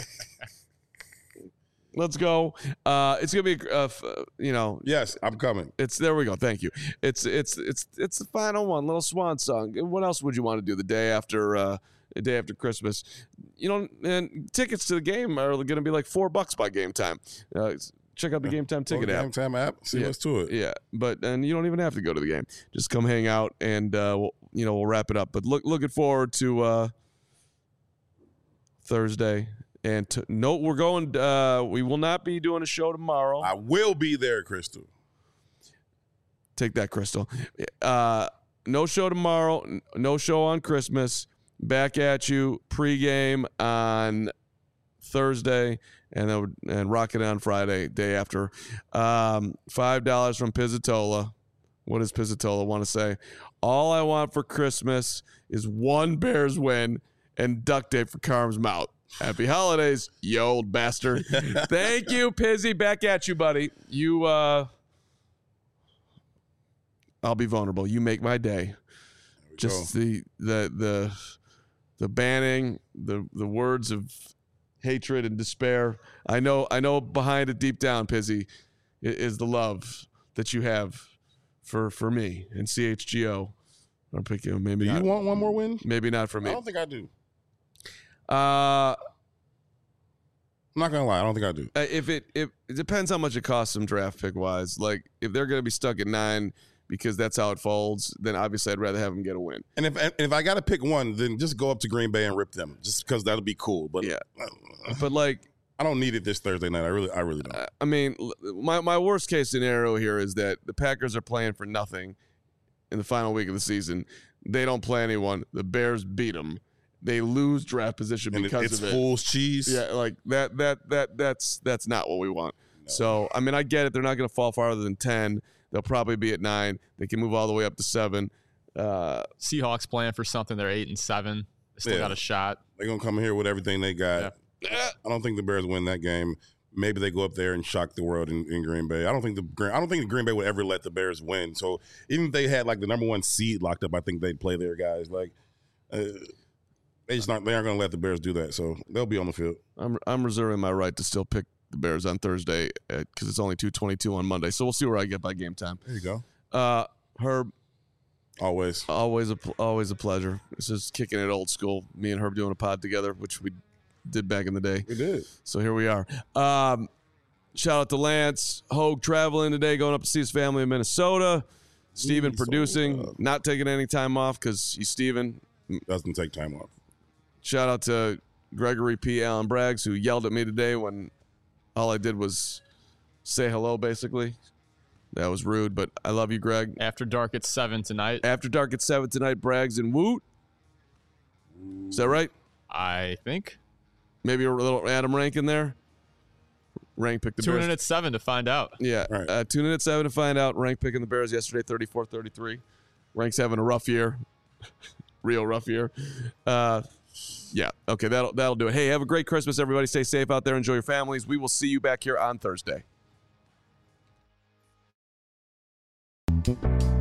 Let's go. Uh, it's gonna be, uh, f- you know, Yes, I'm coming. it's there. We go. Thank you. It's it's it's it's the final one. Little swan song. What else would you want to do the day after uh, the day after Christmas? You know, and tickets to the game are going to be like four bucks by game time. Uh, check out the game time ticket Go to app. Game Time app. See Yeah. what's to it. Yeah, but and you don't even have to go to the game. Just come hang out, and uh, we'll, you know we'll wrap it up. But look, looking forward to uh, Thursday. And to, no, we're going. Uh, we will not be doing a show tomorrow. I will be there, Crystal. Take that, Crystal. Uh, no show tomorrow. n- No show on Christmas. Back at you pregame on Thursday, and then and rocket on Friday, day after. Um, Five dollars from Pizzatola. What does Pizzatola want to say? All I want for Christmas is one Bears win and duct tape for Carm's mouth. Happy holidays, you old bastard. Thank you, Pizzy. Back at you, buddy. You, uh, I'll be vulnerable. You make my day. Just the, the, the, the banning, the, the words of hatred and despair. I know, I know behind it deep down, Pizzy, i- is the love that you have for, for me and C H G O. I'm picking maybe Do you not, want one more win? maybe not for I me. don't think I do. Uh, I'm not gonna lie. I don't think I do. Uh, if it if it depends how much it costs them draft pick wise. Like if they're gonna be stuck at nine, because that's how it folds, then obviously I'd rather have them get a win. And if and if I got to pick one, then just go up to Green Bay and rip them, just because that'll be cool. But Yeah. uh, But, like, I don't need it this Thursday night. I really, I really don't. uh, I mean, l- my, my worst case scenario here is that the Packers are playing for nothing in the final week of the season. They don't play anyone. The Bears beat them. They lose draft position And because it's of it. fool's cheese. Yeah, like that that that that's that's not what we want. No. So, I mean, I get it. They're not going to fall farther than ten. They'll probably be at nine. They can move all the way up to seven. Uh, Seahawks playing for something. They're eight and seven. They still Yeah. got a shot. They're gonna come here with everything they got. Yeah. I don't think the Bears win that game. Maybe they go up there and shock the world in, in Green Bay. I don't think the Green- I don't think the Green Bay would ever let the Bears win. So even if they had like the number one seed locked up, I think they'd play their guys. Like uh, they just not they aren't gonna let the Bears do that. So they'll be on the field. I'm I'm reserving my right to still pick the Bears on Thursday because it's only two twenty-two on Monday. So we'll see where I get by game time. There you go. Uh, Herb, Always. always a pl- always a pleasure. This is kicking it old school. Me and Herb doing a pod together, which we did back in the day. We did. So here we are. Um, shout out to Lance Hogue traveling today, going up to see his family in Minnesota. Steven Minnesota. producing, not taking any time off because he's Steven. Doesn't take time off. Shout out to Gregory P. Allen Braggs, who yelled at me today when all I did was say hello, basically. That was rude, but I love you, Greg. After dark at seven tonight. After dark at seven tonight, Braggs and Woot. Is that right? I think. Maybe a little Adam Rank in there. Rank picked the Tune Bears. in at seven to find out. Yeah. Right. Uh, tune in at seven to find out. Rank picking the Bears yesterday, thirty-four thirty-three. Rank's having a rough year. Real rough year. Uh, yeah. Okay, that'll that'll do it. Hey, have a great Christmas, everybody. Stay safe out there. Enjoy your families. We will see you back here on Thursday.